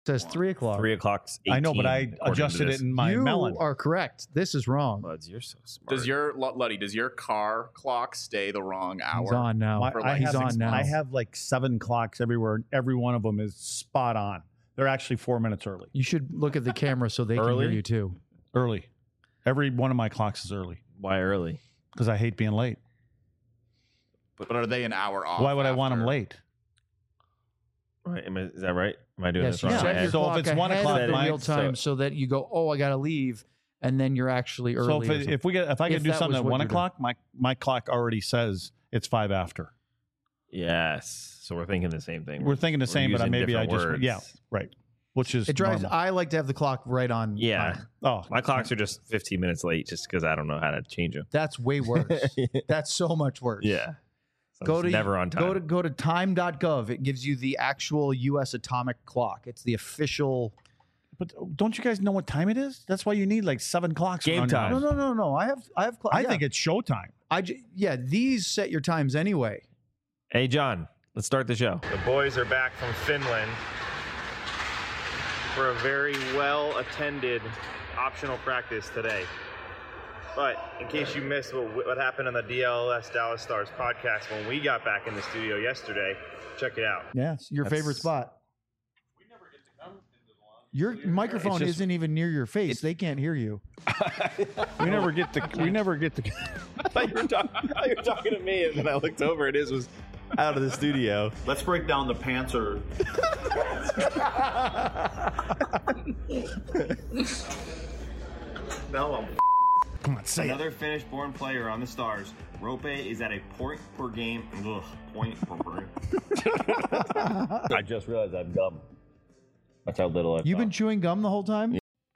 says 3 o'clock. 3 o'clock's 18, I know, but I adjusted it in my you melon. are correct. This is wrong. Buds, you're so smart. Does your car clock stay the wrong hour? He's on now. He's on now. I have like 7 clocks everywhere, and every one of them is spot on. They're actually 4 minutes early. You should look at the camera so they can hear you too. Early. Every one of my clocks is early. Why early? Because I hate being late. But are they an hour off? Why would I want them late? Right? Is that right? Am I doing Yes, this you wrong? set your So if clock it's 1 ahead o'clock of the my- real time so that you go, oh, I got to leave, and then you're actually early. So if I could do that something was at what 1 you're doing. o'clock, my clock already says it's 5 after. Yes. So we're thinking the same thing. We're thinking the same, but using maybe I different just words. right, which is It drives. normal. I like to have the clock right on. Yeah. time. Oh, My clocks are just 15 minutes late just because I don't know how to change them. That's way worse. That's so much worse. Yeah. So Go I'm to just never on time. Go to time.gov. It gives you the actual U.S. atomic clock. It's the official. but don't you guys know what time it is? That's why you need like 7 clocks. Game around your time. house. No. I have. I think it's showtime. These set your times anyway. Hey, John, let's start the show. The boys are back from Finland for a very well-attended optional practice today. But in case you missed what happened on the DLS Dallas Stars podcast when we got back in the studio yesterday, check it out. Yeah, it's your favorite spot. Your microphone isn't even near your face. They can't hear you. We never get to. I thought you were talking to me, and then I looked over, and his was out of the studio. Let's break down the Panther. No, I'm Come on, say it. another Finnish-born player on the Stars. Rope is at a point per game. Point per game. I just realized I'm dumb. That's how little I You've been chewing gum the whole time?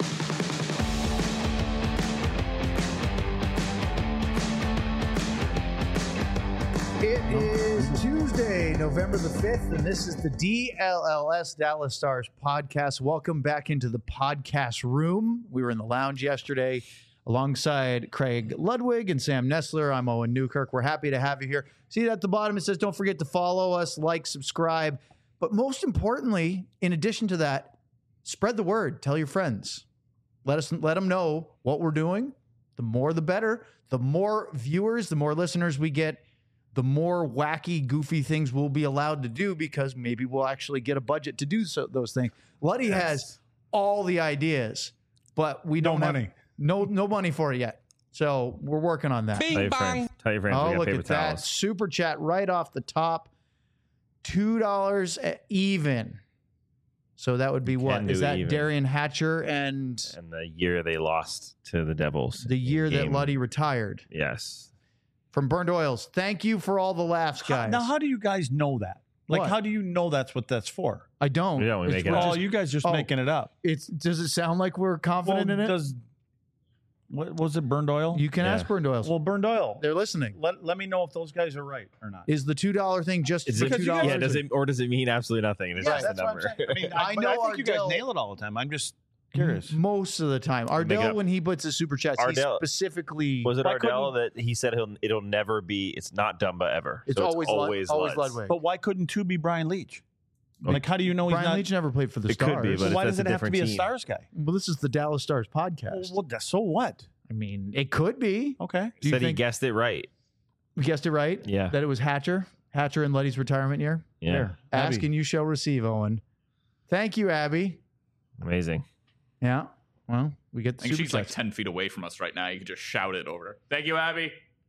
It is Tuesday, November the 5th, and this is the DLLS Dallas Stars podcast. Welcome back into the podcast room. We were in the lounge yesterday alongside Craig Ludwig and Sam Nestler. I'm Owen Newkirk. We're happy to have you here. See at the bottom, it says don't forget to follow us, like, subscribe. But most importantly, in addition to that, spread the word. Tell your friends. Let them know what we're doing. The more, the better. The more viewers, the more listeners we get, the more wacky, goofy things we'll be allowed to do because maybe we'll actually get a budget to do those things. Luddy has all the ideas, but we don't have no money for it yet. So we're working on that. Tell your friends. Tell your friends. Oh, we got look paper at that. towels. Super chat right off the top. $2 even. So that would be what? Can Is do that even. Darian Hatcher and And the year they lost to the Devils. the year that Game. Luddy retired? Yes. From Burned Oils. Thank you for all the laughs, guys. Now, how do you guys know that? Like, What? how do you know that's what that's for? I don't. Yeah, we It's- make it we're up. Oh, just- you guys just making it up. Does it sound like we're confident in it? What was it? Burned oil? You can Yeah. ask Burned Oils. Well, burned oil. They're listening. Let me know if those guys are right or not. Is the $2 thing just Is for it, $2? yeah, does it mean absolutely nothing? It's Yeah, just a that's what I'm number. saying. I mean, I but know I think you guys Ardell- nail it all the time. I'm just curious. Most of the time. Ardell, up. when he puts his super chats, he Ardell- specifically... Was it Why Ardell that he said it'll never be? It's not Dumba ever. It's So always always always Lutz. Ludwig. But why couldn't 2 be Brian Leach? Like, how do you know Brian he's not? Leach never played for the It could Stars. be, but why that's does a it have to different be a team. Stars guy? Well, this is the Dallas Stars podcast. Well, so what? I mean, it could be. Okay. Do you Said he think guessed it right. we guessed it right? Yeah. That it was Hatcher and Luddy's retirement year? Yeah. There. Ask Abby. and you shall receive, Owen. Thank you, Abby. Amazing. Yeah. Well, we get I the think super she's like chats. 10 feet away from us right now. You could just shout it over her. Thank you, Abby.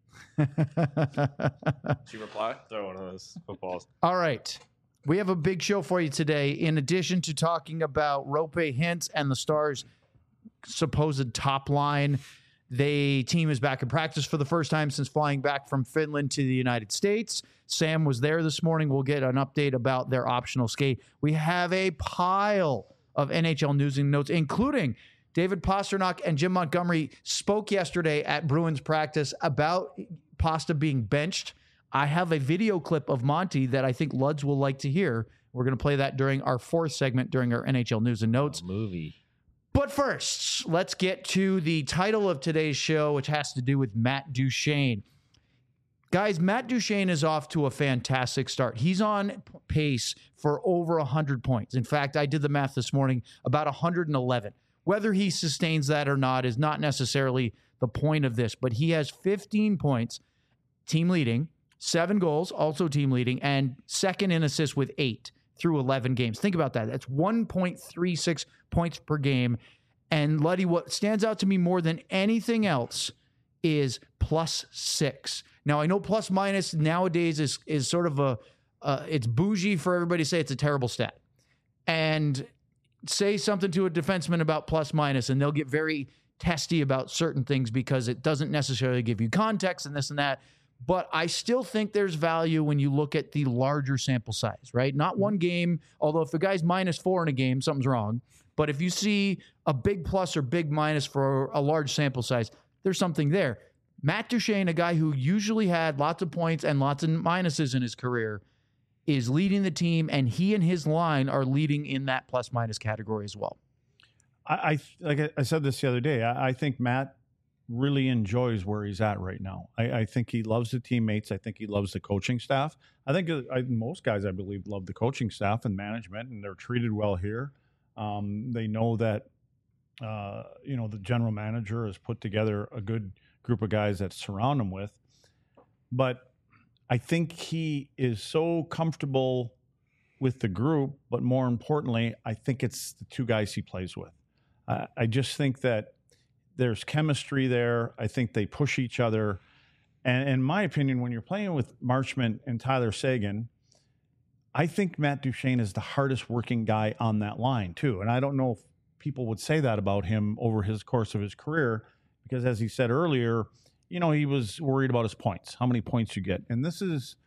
She reply? Throw one of those footballs. All right. We have a big show for you today. In addition to talking about Rope Hintz and the Stars' supposed top line, the team is back in practice for the first time since flying back from Finland to the United States. Sam was there this morning. We'll get an update about their optional skate. We have a pile of NHL news and notes, including David Pasternak and Jim Montgomery spoke yesterday at Bruins practice about Pasta being benched. I have a video clip of Monty that I think Luds will like to hear. We're going to play that during our fourth segment during our NHL news and notes. Movie. But first, let's get to the title of today's show, which has to do with Matt Duchene. Guys, Matt Duchene is off to a fantastic start. He's on pace for over 100 points. In fact, I did the math this morning, about 111. Whether he sustains that or not is not necessarily the point of this, but he has 15 points, team leading, 7 goals, also team leading, and second in assists with 8 through 11 games. Think about that. That's 1.36 points per game. And Luddy, what stands out to me more than anything else is +6. Now, I know plus minus nowadays is sort of it's bougie for everybody to say it's a terrible stat. And say something to a defenseman about plus minus, and they'll get very testy about certain things because it doesn't necessarily give you context and this and that. But I still think there's value when you look at the larger sample size, right? Not one game, although if the guy's -4 in a game, something's wrong. But if you see a big plus or big minus for a large sample size, there's something there. Matt Duchene, a guy who usually had lots of points and lots of minuses in his career, is leading the team, and he and his line are leading in that plus-minus category as well. Like I said this the other day, I think Matt really enjoys where he's at right now. I think he loves the teammates. I think he loves the coaching staff. I think most guys, I believe, love the coaching staff and management, and they're treated well here. They know that, the general manager has put together a good group of guys that surround him with. But I think he is so comfortable with the group, but more importantly, I think it's the 2 guys he plays with. I just think that there's chemistry there. I think they push each other. And in my opinion, when you're playing with Marchment and Tyler Seguin, I think Matt Duchene is the hardest working guy on that line too. And I don't know if people would say that about him over his course of his career, because as he said earlier, he was worried about his points, how many points you get. And this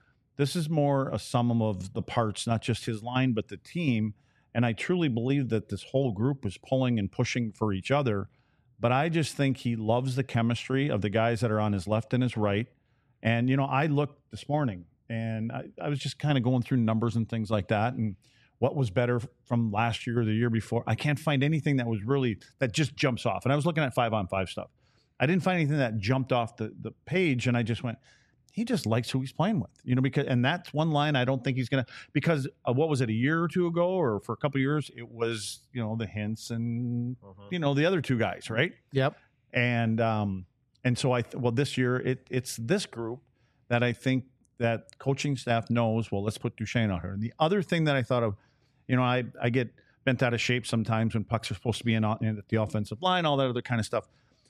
is more a sum of the parts, not just his line, but the team. And I truly believe that this whole group was pulling and pushing for each other. But I just think he loves the chemistry of the guys that are on his left and his right. And, I looked this morning and I was just kind of going through numbers and things like that. And what was better from last year or the year before? I can't find anything that just jumps off. And I was looking at 5-on-5 stuff. I didn't find anything that jumped off the page. And I just went, he just likes who he's playing with, and that's one line I don't think he's going to, because what was it, a year or 2 ago, or for a couple of years, it was, the Hintz and, the other 2 guys, right? Yep. And so this year it's this group that I think that coaching staff knows, well, let's put Duchene out here. And the other thing that I thought of, I get bent out of shape sometimes when pucks are supposed to be in at the offensive line, all that other kind of stuff.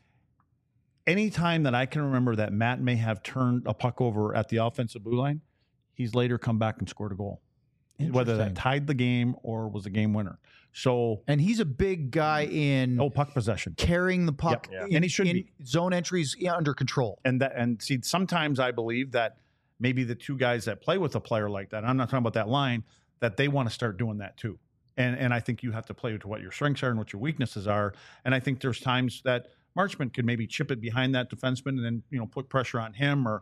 Anytime that I can remember that Matt may have turned a puck over at the offensive blue line, he's later come back and scored a goal, whether that tied the game or was a game winner. So, and he's a big guy in puck possession, carrying the puck, and he should be zone entries under control. And see, sometimes I believe that maybe the 2 guys that play with a player like that, I'm not talking about that line, that they want to start doing that too. And I think you have to play to what your strengths are and what your weaknesses are. And I think there's times that Marchment could maybe chip it behind that defenseman and then, put pressure on him or,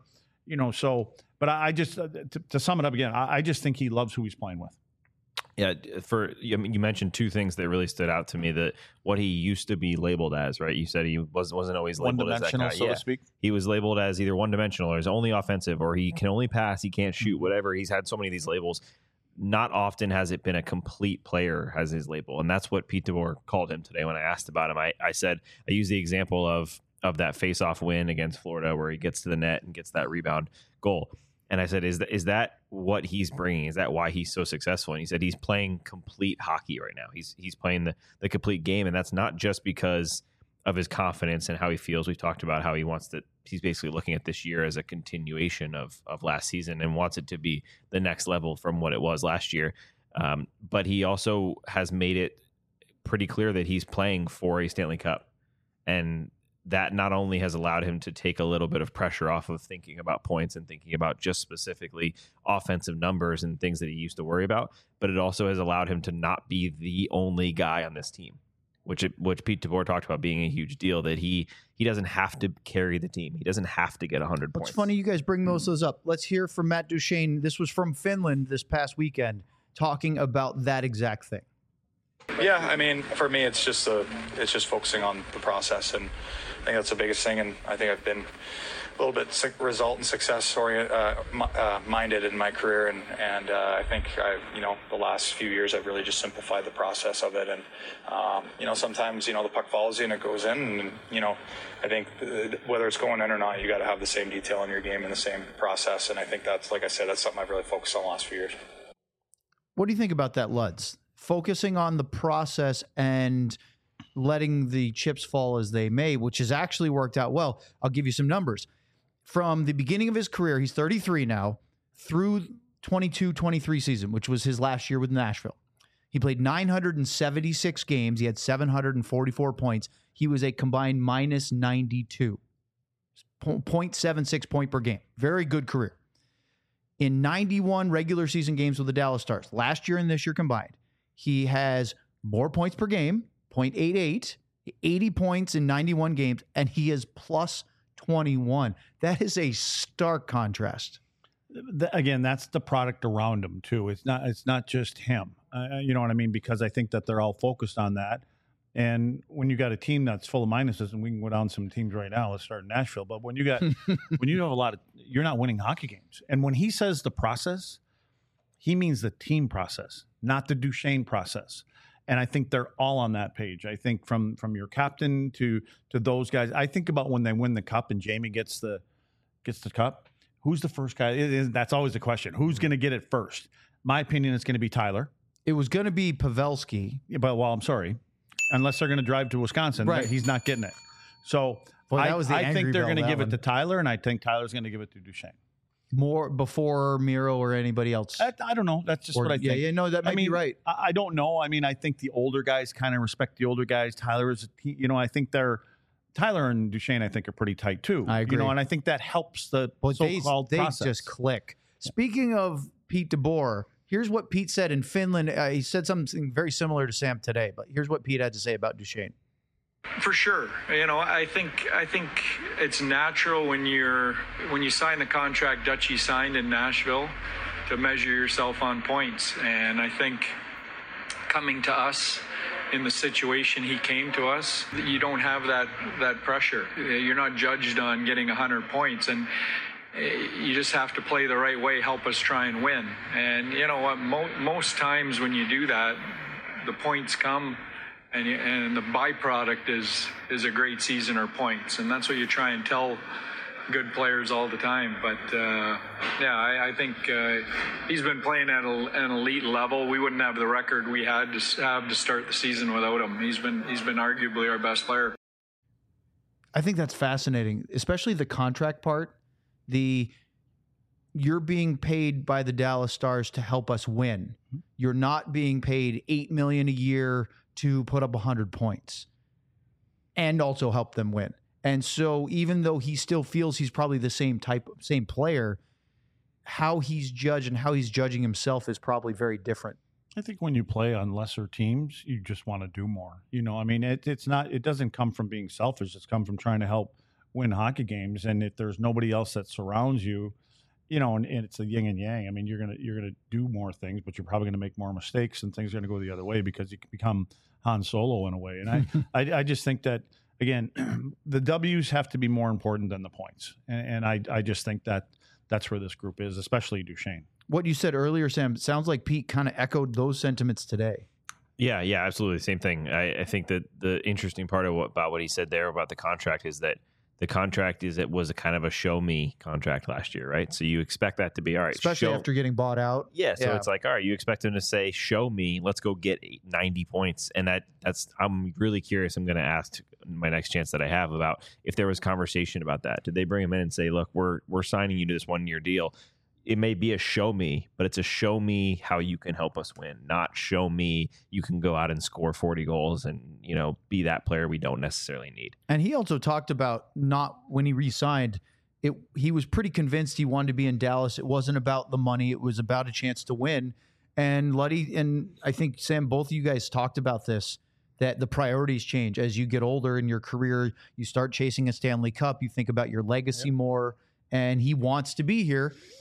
but I just, to sum it up again, I just think he loves who he's playing with. Yeah. You mentioned 2 things that really stood out to me, that what he used to be labeled as, right? You said he wasn't always labeled as that guy. So to speak. He was labeled as either one-dimensional or he's only offensive, or he can only pass, he can't shoot, whatever. He's had so many of these labels. Not often has it been a complete player has his label. And that's what Pete DeBoer called him today when I asked about him. I said, I used the example of that face-off win against Florida where he gets to the net and gets that rebound goal. And I said, is that what he's bringing? Is that why he's so successful? And he said, he's playing complete hockey right now. He's playing the complete game. And that's not just because of his confidence and how he feels. We've talked about how he's basically looking at this year as a continuation of last season and wants it to be the next level from what it was last year. But he also has made it pretty clear that he's playing for a Stanley Cup. And that not only has allowed him to take a little bit of pressure off of thinking about points and thinking about just specifically offensive numbers and things that he used to worry about, but it also has allowed him to not be the only guy on this team. Which Pete DeBoer talked about being a huge deal, that he doesn't have to carry the team. He doesn't have to get 100 points. It's funny you guys bring most of those up. Let's hear from Matt Duchene. This was from Finland this past weekend, talking about that exact thing. Yeah, I mean, for me, it's just focusing on the process and think that's the biggest thing, and I think I've been a little bit result and success minded in my career, and I think the last few years I've really just simplified the process of it, and sometimes the puck follows you and it goes in, and I think whether it's going in or not, you got to have the same detail in your game and the same process, and I think that's, like I said, that's something I've really focused on the last few years. What do you think about that, Luds? Focusing on the process and letting the chips fall as they may, which has actually worked out well. I'll give you some numbers. From the beginning of his career, he's 33 now, through 22-23 season, which was his last year with Nashville. He played 976 games. He had 744 points. He was a combined minus 92, 0.76 point per game. Very good career. In 91 regular season games with the Dallas Stars, last year and this year combined, he has more points per game, 0.88, 80 points in 91 games, and he is plus 21. That is a stark contrast. Again, that's the product around him too. It's not just him. You know what I mean? Because I think that they're all focused on that. And when you got a team that's full of minuses, and we can go down some teams right now, let's start in Nashville. But when you have a lot of, you're not winning hockey games. And when he says the process, he means the team process, not the Duchesne process. And I think they're all on that page. I think from your captain to those guys. I think about when they win the cup and Jamie gets the cup. Who's the first guy? That's always the question. Who's going to get it first? My opinion is going to be Tyler. It was going to be Pavelski. Yeah, but I'm sorry. Unless they're going to drive to Wisconsin, right. He's not getting it. So I think they're going to give it to Tyler, and I think Tyler's going to give it to Duchesne. More before Miro or anybody else? I don't know. That's just what I think. Yeah, no, that might be right. I don't know. I mean, I think the older guys kind of respect the older guys. Tyler is, I think Tyler and Duchesne, I think, are pretty tight too. I agree. And I think that helps the so-called process. They just click. Speaking of Pete DeBoer, here's what Pete said in Finland. He said something very similar to Sam today, but here's what Pete had to say about Duchesne. For sure. I think it's natural when you sign the contract Dutchie signed in Nashville to measure yourself on points. And I think coming to us in the situation he came to us, you don't have that pressure. You're not judged on getting 100 points, and you just have to play the right way, help us try and win. And you know what? Most times when you do that, the points come. And the byproduct is a great season or points, and that's what you try and tell good players all the time. But I think he's been playing at an elite level. We wouldn't have the record we had to have to start the season without him. He's been arguably our best player. I think that's fascinating, especially the contract part. You're being paid by the Dallas Stars to help us win. You're not being paid $8 million a year to put up 100 points and also help them win. And so even though he still feels he's probably the same player, how he's judged and how he's judging himself is probably very different. I think when you play on lesser teams, you just want to do more. I mean, it doesn't come from being selfish. It's come from trying to help win hockey games. And if there's nobody else that surrounds you, and it's a yin and yang. I mean, you're gonna do more things, but you're probably gonna make more mistakes, and things are gonna go the other way because you can become Han Solo in a way. And I just think that, again, the W's have to be more important than the points. And I just think that that's where this group is, especially Duchesne. What you said earlier, Sam, sounds like Pete kind of echoed those sentiments today. Yeah, absolutely. Same thing. I think that the interesting part about what he said there about the contract is that the contract was a kind of a show me contract last year, right? So you expect that to be all right. Especially after getting bought out. Yeah. So it's like, all right, you expect him to say, show me, let's go get 90 points. And that's, I'm really curious. I'm going to ask my next chance that I have about if there was conversation about that. Did they bring him in and say, look, we're signing you to this 1-year deal. It may be a show me, but it's a show me how you can help us win, not show me you can go out and score 40 goals and, be that player we don't necessarily need. And he also talked about when he re-signed, he was pretty convinced he wanted to be in Dallas. It wasn't about the money. It was about a chance to win. And Luddy, and I think, Sam, both of you guys talked about this, that the priorities change. As you get older in your career, you start chasing a Stanley Cup. You think about your legacy more, and he wants to be here.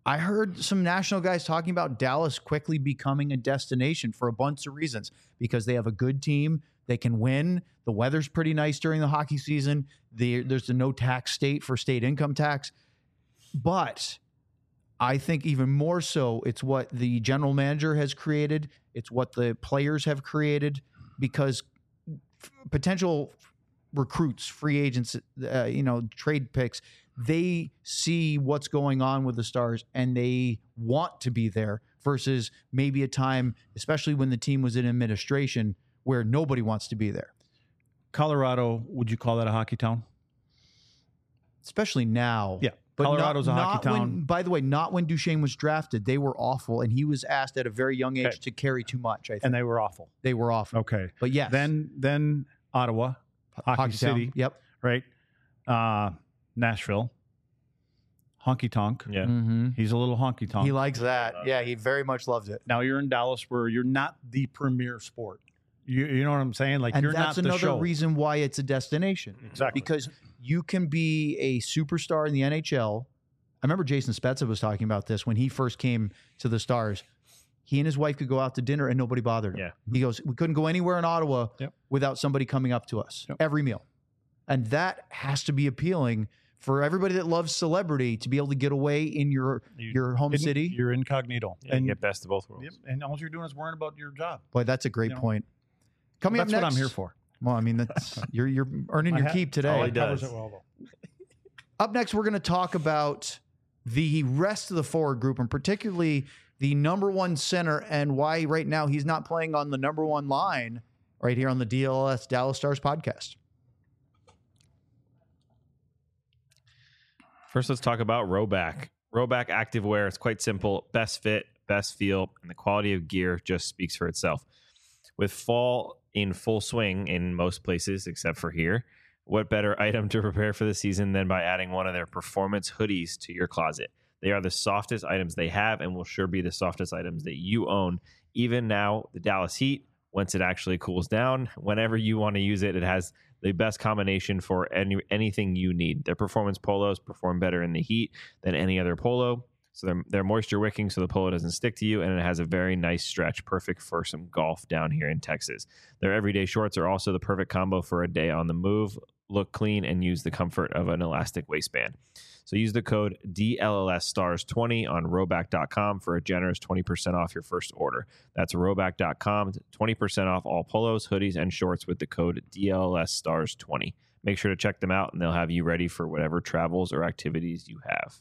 I heard some national guys talking about Dallas quickly becoming a destination for a bunch of reasons, because they have a good team. They can win. The weather's pretty nice during the hockey season. There's a no tax state for state income tax. But I think even more so, it's what the general manager has created. It's what the players have created, because potential recruits, free agents, trade picks, they see what's going on with the Stars and they want to be there, versus maybe a time, especially when the team was in administration, where nobody wants to be there. Colorado, would you call that a hockey town? Especially now. Yeah. But Colorado's a hockey town. When, by the way, not when Duchesne was drafted. They were awful, and he was asked at a very young age to carry too much, I think. And they were awful. They were awful. Okay. But yes. Then Ottawa, Hockey City. Town. Yep. Right. Nashville, honky tonk. Yeah. Mm-hmm. He's a little honky tonk. He likes that. Yeah, he very much loves it. Now you're in Dallas, where you're not the premier sport. You know what I'm saying? Like, And you're that's not the another show. reason why it's a destination. Exactly. Because you can be a superstar in the NHL. I remember Jason Spezza was talking about this when he first came to the Stars. He and his wife could go out to dinner and nobody bothered him. Yeah. He goes, we couldn't go anywhere in Ottawa without somebody coming up to us every meal. And that has to be appealing for everybody that loves celebrity, to be able to get away in your home city. You're incognito. Yeah, and get best of both worlds. Yep, and all you're doing is worrying about your job. Boy, that's a great point. Coming That's up next, what I'm here for. Well, I mean, that's you're earning your keep today. He does. It well, though. Up next, we're going to talk about the rest of the forward group, and particularly the number one center, and why right now he's not playing on the number one line right here on the DLS Dallas Stars podcast. First, let's talk about Rhoback. Rhoback activewear. It's quite simple. Best fit, best feel, and the quality of gear just speaks for itself. With fall in full swing in most places except for here, what better item to prepare for the season than by adding one of their performance hoodies to your closet? They are the softest items they have and will sure be the softest items that you own. Even now, the Dallas Heat, once it actually cools down, whenever you want to use it, it has the best combination for anything you need. Their performance polos perform better in the heat than any other polo. So they're moisture wicking so the polo doesn't stick to you, and it has a very nice stretch, perfect for some golf down here in Texas. Their everyday shorts are also the perfect combo for a day on the move. Look clean and use the comfort of an elastic waistband. So use the code DLLSstars20 on Rhoback.com for a generous 20% off your first order. That's Rhoback.com, 20% off all polos, hoodies, and shorts with the code DLLSstars20. Make sure to check them out, and they'll have you ready for whatever travels or activities you have.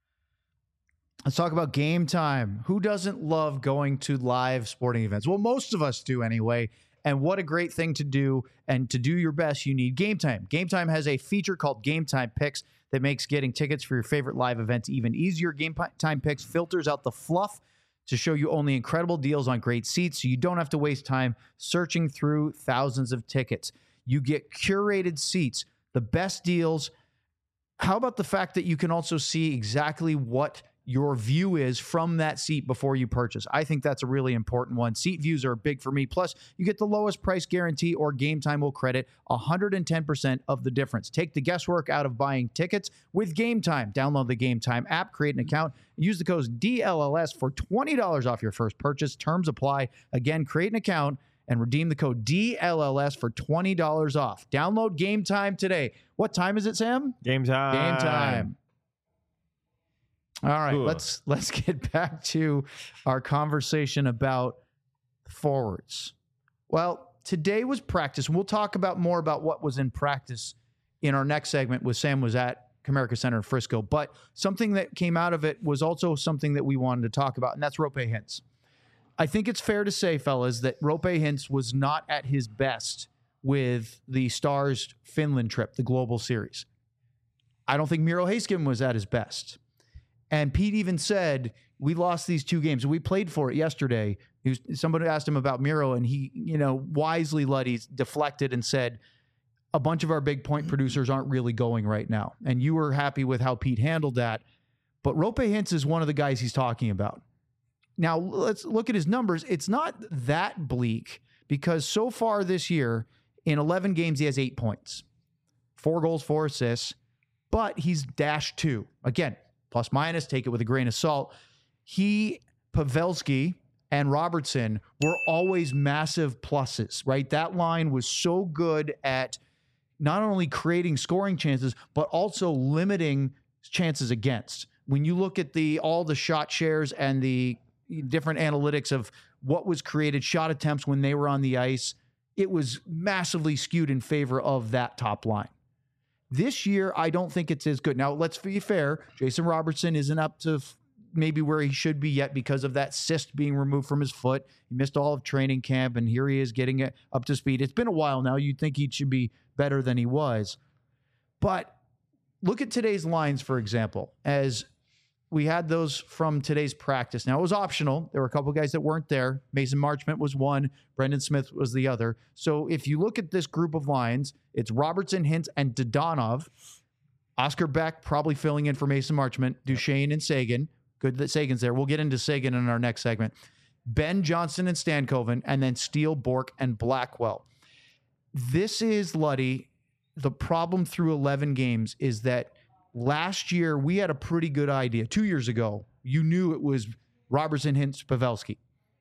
Let's talk about Game Time. Who doesn't love going to live sporting events? Well, most of us do anyway. And what a great thing to do. And to do your best, you need Game Time. Game Time has a feature called Game Time Picks that makes getting tickets for your favorite live events even easier. Game Time Picks filters out the fluff to show you only incredible deals on great seats, so you don't have to waste time searching through thousands of tickets. You get curated seats, the best deals. How about the fact that you can also see exactly what your view is from that seat before you purchase? I think that's a really important one. Seat views are big for me. Plus, you get the lowest price guarantee, or Game Time will credit 110% of the difference. Take the guesswork out of buying tickets with Game Time. Download the Game Time app, create an account, and use the code DLLS for $20 off your first purchase. Terms apply. Again, create an account and redeem the code DLLS for $20 off. Download Game Time today. What time is it, Sam? Game time. Game time. All right, Cool. let's get back to our conversation about forwards. Well, today was practice, and we'll talk about more about what was in practice in our next segment with Sam was at Comerica Center in Frisco. But something that came out of it was also something that we wanted to talk about, and that's Roope Hintz. I think it's fair to say, fellas, that Roope Hintz was not at his best with the Stars Finland trip, the Global Series. I don't think Miro Heiskanen was at his best. And Pete even said, we lost these two games. We played for it yesterday. Somebody asked him about Miro, and he, wisely Luddy deflected and said, a bunch of our big point producers aren't really going right now. And you were happy with how Pete handled that. But Roope Hintz is one of the guys he's talking about. Now, let's look at his numbers. It's not that bleak, because so far this year, in 11 games, he has 8 points, 4 goals, 4 assists, but he's -2. Again, plus minus, take it with a grain of salt. Pavelski and Robertson were always massive pluses, right? That line was so good at not only creating scoring chances, but also limiting chances against. When you look at all the shot shares and the different analytics of what was created, shot attempts when they were on the ice, it was massively skewed in favor of that top line. This year, I don't think it's as good. Now, let's be fair. Jason Robertson isn't up to maybe where he should be yet because of that cyst being removed from his foot. He missed all of training camp, and here he is getting it up to speed. It's been a while now. You'd think he should be better than he was. But look at today's lines, for example, as we had those from today's practice. Now, it was optional. There were a couple of guys that weren't there. Mason Marchment was one. Brendan Smith was the other. So if you look at this group of lines, it's Robertson, Hintz, and Dadonov. Oscar Beck probably filling in for Mason Marchment. Duchesne and Sagan. Good that Sagan's there. We'll get into Sagan in our next segment. Ben Johnson and Stankoven, and then Steele, Bourque, and Blackwell. This is, Luddy, the problem through 11 games is that last year we had a pretty good idea. 2 years ago, you knew it was Robertson, Hintz, Pavelski.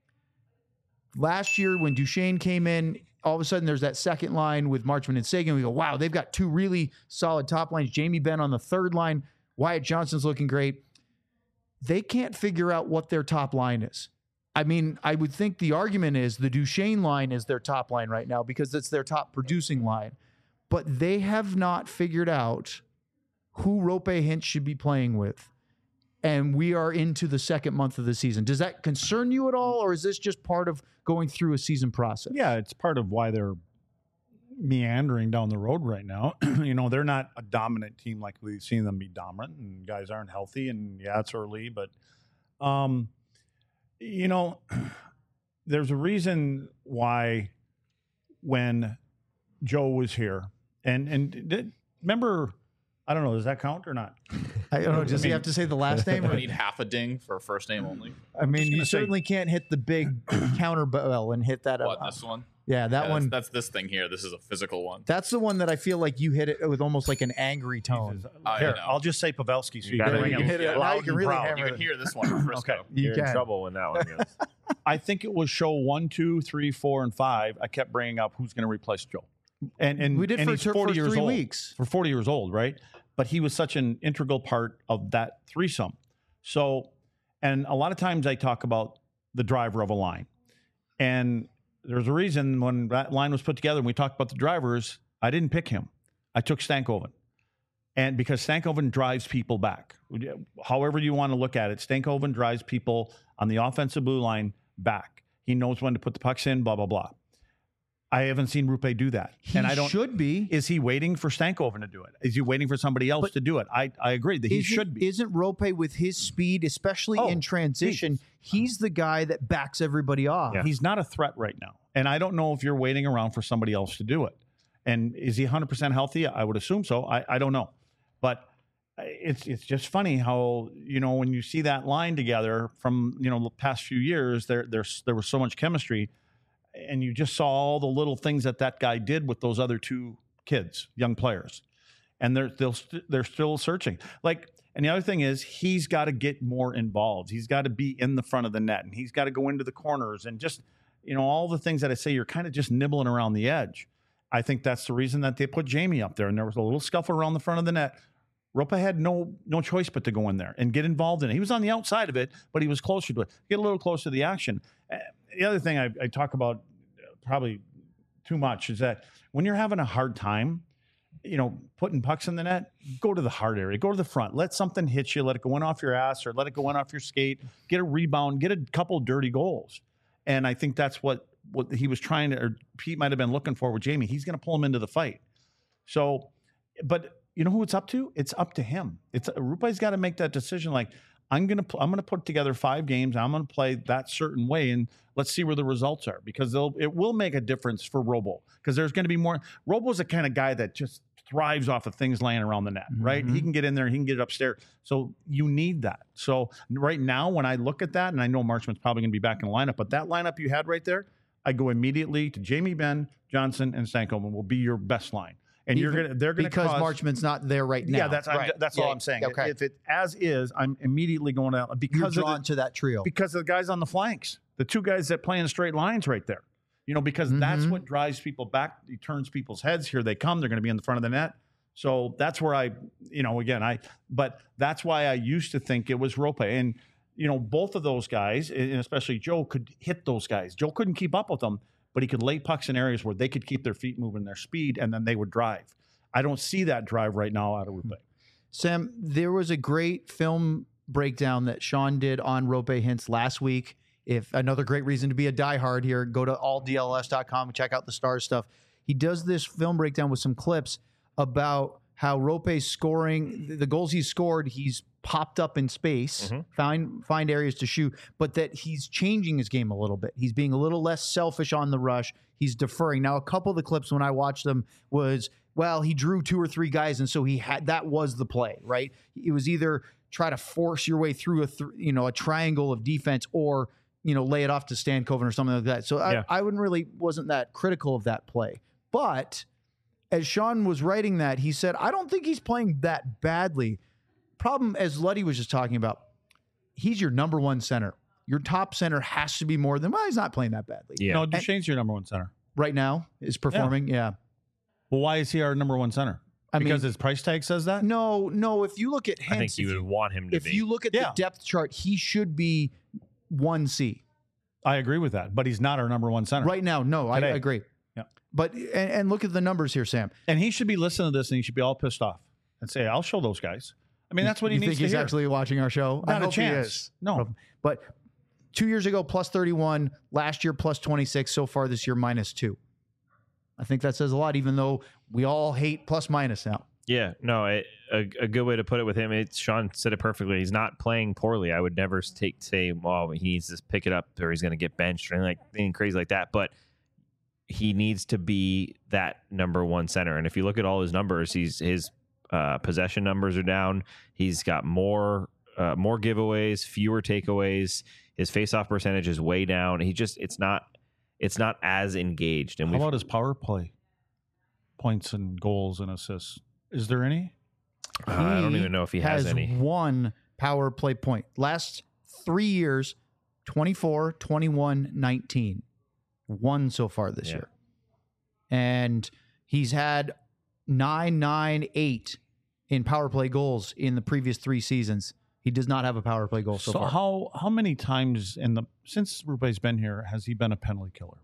Last year when Duchesne came in, all of a sudden there's that second line with Marchment and Sagan. We go, wow, they've got two really solid top lines. Jamie Benn on the third line. Wyatt Johnson's looking great. They can't figure out what their top line is. I mean, I would think the argument is the Duchesne line is their top line right now because it's their top producing line. But they have not figured out who Roope Hintz should be playing with. And we are into the second month of the season. Does that concern you at all, or is this just part of going through a season process? Yeah, it's part of why they're meandering down the road right now. They're not a dominant team like we've seen them be dominant, and guys aren't healthy, and yeah, it's early, but there's a reason why when Joe was here, and remember, I don't know, does that count or not? I don't know. Does he have to say the last name? I need half a ding for a first name only. I mean, you certainly can't hit the big counter bell and hit that. What, this one? Yeah, that one. That's this thing here. This is a physical one. That's the one that I feel like you hit it with almost like an angry tone. Here, I'll just say Pavelski. So you can hit it loud and proud. You can hear this one. Okay, You're in trouble when that one goes. I think it was show 1, 2, 3, 4, and 5. I kept bringing up who's going to replace Joe, and we did and for he's 40 years 3 old. weeks. For 40 years old, right? But he was such an integral part of that threesome. So, and a lot of times I talk about the driver of a line, and there's a reason when that line was put together and we talked about the drivers, I didn't pick him. I took Stankoven. And because Stankoven drives people back. However you want to look at it, Stankoven drives people on the offensive blue line back. He knows when to put the pucks in, blah, blah, blah. I haven't seen Roope do that. He should be. Is he waiting for Stankoven to do it? Is he waiting for somebody else to do it? I agree that he should be. Isn't Roope with his speed, especially in transition, he's the guy that backs everybody off. Yeah. He's not a threat right now. And I don't know if you're waiting around for somebody else to do it. And is he 100% healthy? I would assume so. I don't know. But it's just funny how, when you see that line together from, the past few years, there was so much chemistry. And you just saw all the little things that guy did with those other two kids, young players. And they're still searching. And the other thing is he's got to get more involved. He's got to be in the front of the net, and he's got to go into the corners and just, all the things that I say, you're kind of just nibbling around the edge. I think that's the reason that they put Jamie up there, and there was a little scuffle around the front of the net. Roope had no choice but to go in there and get involved in it. He was on the outside of it, but he was closer to it. Get a little closer to the action. The other thing I talk about probably too much is that when you're having a hard time, putting pucks in the net, go to the hard area, go to the front, let something hit you, let it go in off your ass or let it go in off your skate, get a rebound, get a couple dirty goals. And I think that's what he was trying to, or Pete might have been looking for with Jamie. He's going to pull him into the fight. So, but you know who it's up to? It's up to him. Rupe's got to make that decision. I'm going to put together 5 games. I'm going to play that certain way, and let's see where the results are, because it will make a difference for Robo, because there's going to be more. Robo's the kind of guy that just thrives off of things laying around the net, right? He can get in there, he can get it upstairs. So you need that. So right now, when I look at that, and I know Marchman's probably going to be back in the lineup, but that lineup you had right there, I go immediately to Jamie Benn, Johnson, and Stankoven will be your best line. and Even they're gonna because cause, Marchman's not there right now. Yeah, that's Right. that's all I'm saying. Okay. If it as is, I'm immediately going out You're because of drawn to that trio. because of the guys on the flanks, the two guys that play in straight lines right there. Because that's what drives people back. It turns people's heads. Here they come. They're going to be in the front of the net. So that's where but that's why I used to think it was Rope. And, both of those guys, and especially Joe, could hit those guys. Joe couldn't keep up with them, but he could lay pucks in areas where they could keep their feet moving, their speed, and then they would drive. I don't see that drive right now out of Rope. Sam, there was a great film breakdown that Sean did on Rope Hintz last week. If another great reason to be a diehard here, go to alldls.com and check out the Stars stuff. He does this film breakdown with some clips about how Rope's scoring, the goals he's scored, he's popped up in space, find areas to shoot, but that he's changing his game a little bit. He's being a little less selfish on the rush. He's deferring. Now, a couple of the clips when I watched them was, well, he drew 2 or 3 guys, and so that was the play, right? It was either try to force your way through a triangle of defense or lay it off to Stankoven or something like that. So I wasn't that critical of that play. But as Sean was writing that, he said, I don't think he's playing that badly. Problem, as Luddy was just talking about, he's your number one center. Your top center has to be more than, he's not playing that badly. Yeah. No, Duchesne's your number one center. Right now is performing, yeah. Well, why is he our number one center? Because his price tag says that? No. If you look at Hintz, I think you would want him to be. If you look at the depth chart, he should be 1C. I agree with that, but he's not our number one center. Right now, no, I agree. Yeah. But, and look at the numbers here, Sam. And he should be listening to this and he should be all pissed off and say, I'll show those guys. I mean, that's what he You needs think to he's hear. actually watching our show? Not I a hope he chance. is. No. But 2 years ago, plus 31. Last year, plus 26. So far this year, minus 2. I think that says a lot, even though we all hate plus minus now. Yeah, no, a good way to put it with him, Sean said it perfectly. He's not playing poorly. I would never say, well, he needs to pick it up or he's going to get benched or anything crazy like that. But he needs to be that number one center. And if you look at all his numbers, his possession numbers are down. He's got more giveaways, fewer takeaways. His faceoff percentage is way down. It's not as engaged. And how about his power play points and goals and assists? Is there any? I don't even know if he has any. One power play point. Last 3 years, 24, 21, 19. One so far this year. And he's had 9, 9, 8 in power play goals in the previous 3 seasons. He does not have a power play goal so far. How many times since Rupe's been here has he been a penalty killer?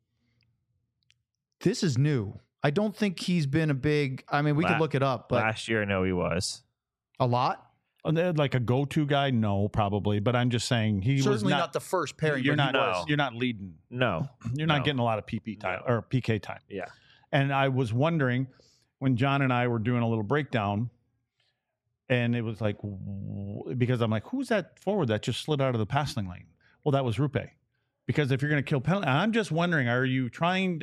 This is new. I don't think he's been a big. I mean, we could look it up, but last year I know he was a lot. Like a go-to guy, no, probably. But I'm just saying he certainly was not the first pairing. You're not leading. No, you're not getting a lot of PP time or PK time. Yeah. And I was wondering when John and I were doing a little breakdown, and it was like, because I'm like, who's that forward that just slid out of the passing lane? Well, that was Rupe. Because if you're going to kill penalty, I'm just wondering, are you trying?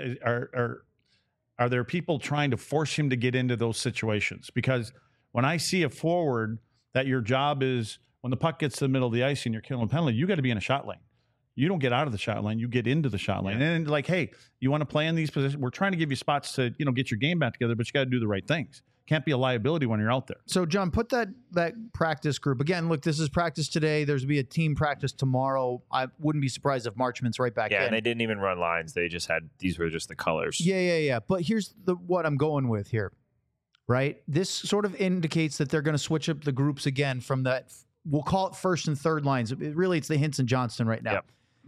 Are there people trying to force him to get into those situations? Because when I see a forward that your job is when the puck gets to the middle of the ice and you're killing penalty, you got to be in a shot lane. You don't get out of the shot lane, you get into the shot lane. And like, hey, you want to play in these positions? We're trying to give you spots to, get your game back together, but you got to do the right things. Can't be a liability when you're out there. So, John, put that practice group. Again, look, this is practice today. There's going to be a team practice tomorrow. I wouldn't be surprised if Marchman's right back in. Yeah, and they didn't even run lines. They just these were just the colors. Yeah. But here's what I'm going with here, right? This sort of indicates that they're going to switch up the groups again from that, we'll call it first and third lines. It's the Hintz and Johnston right now. Yep.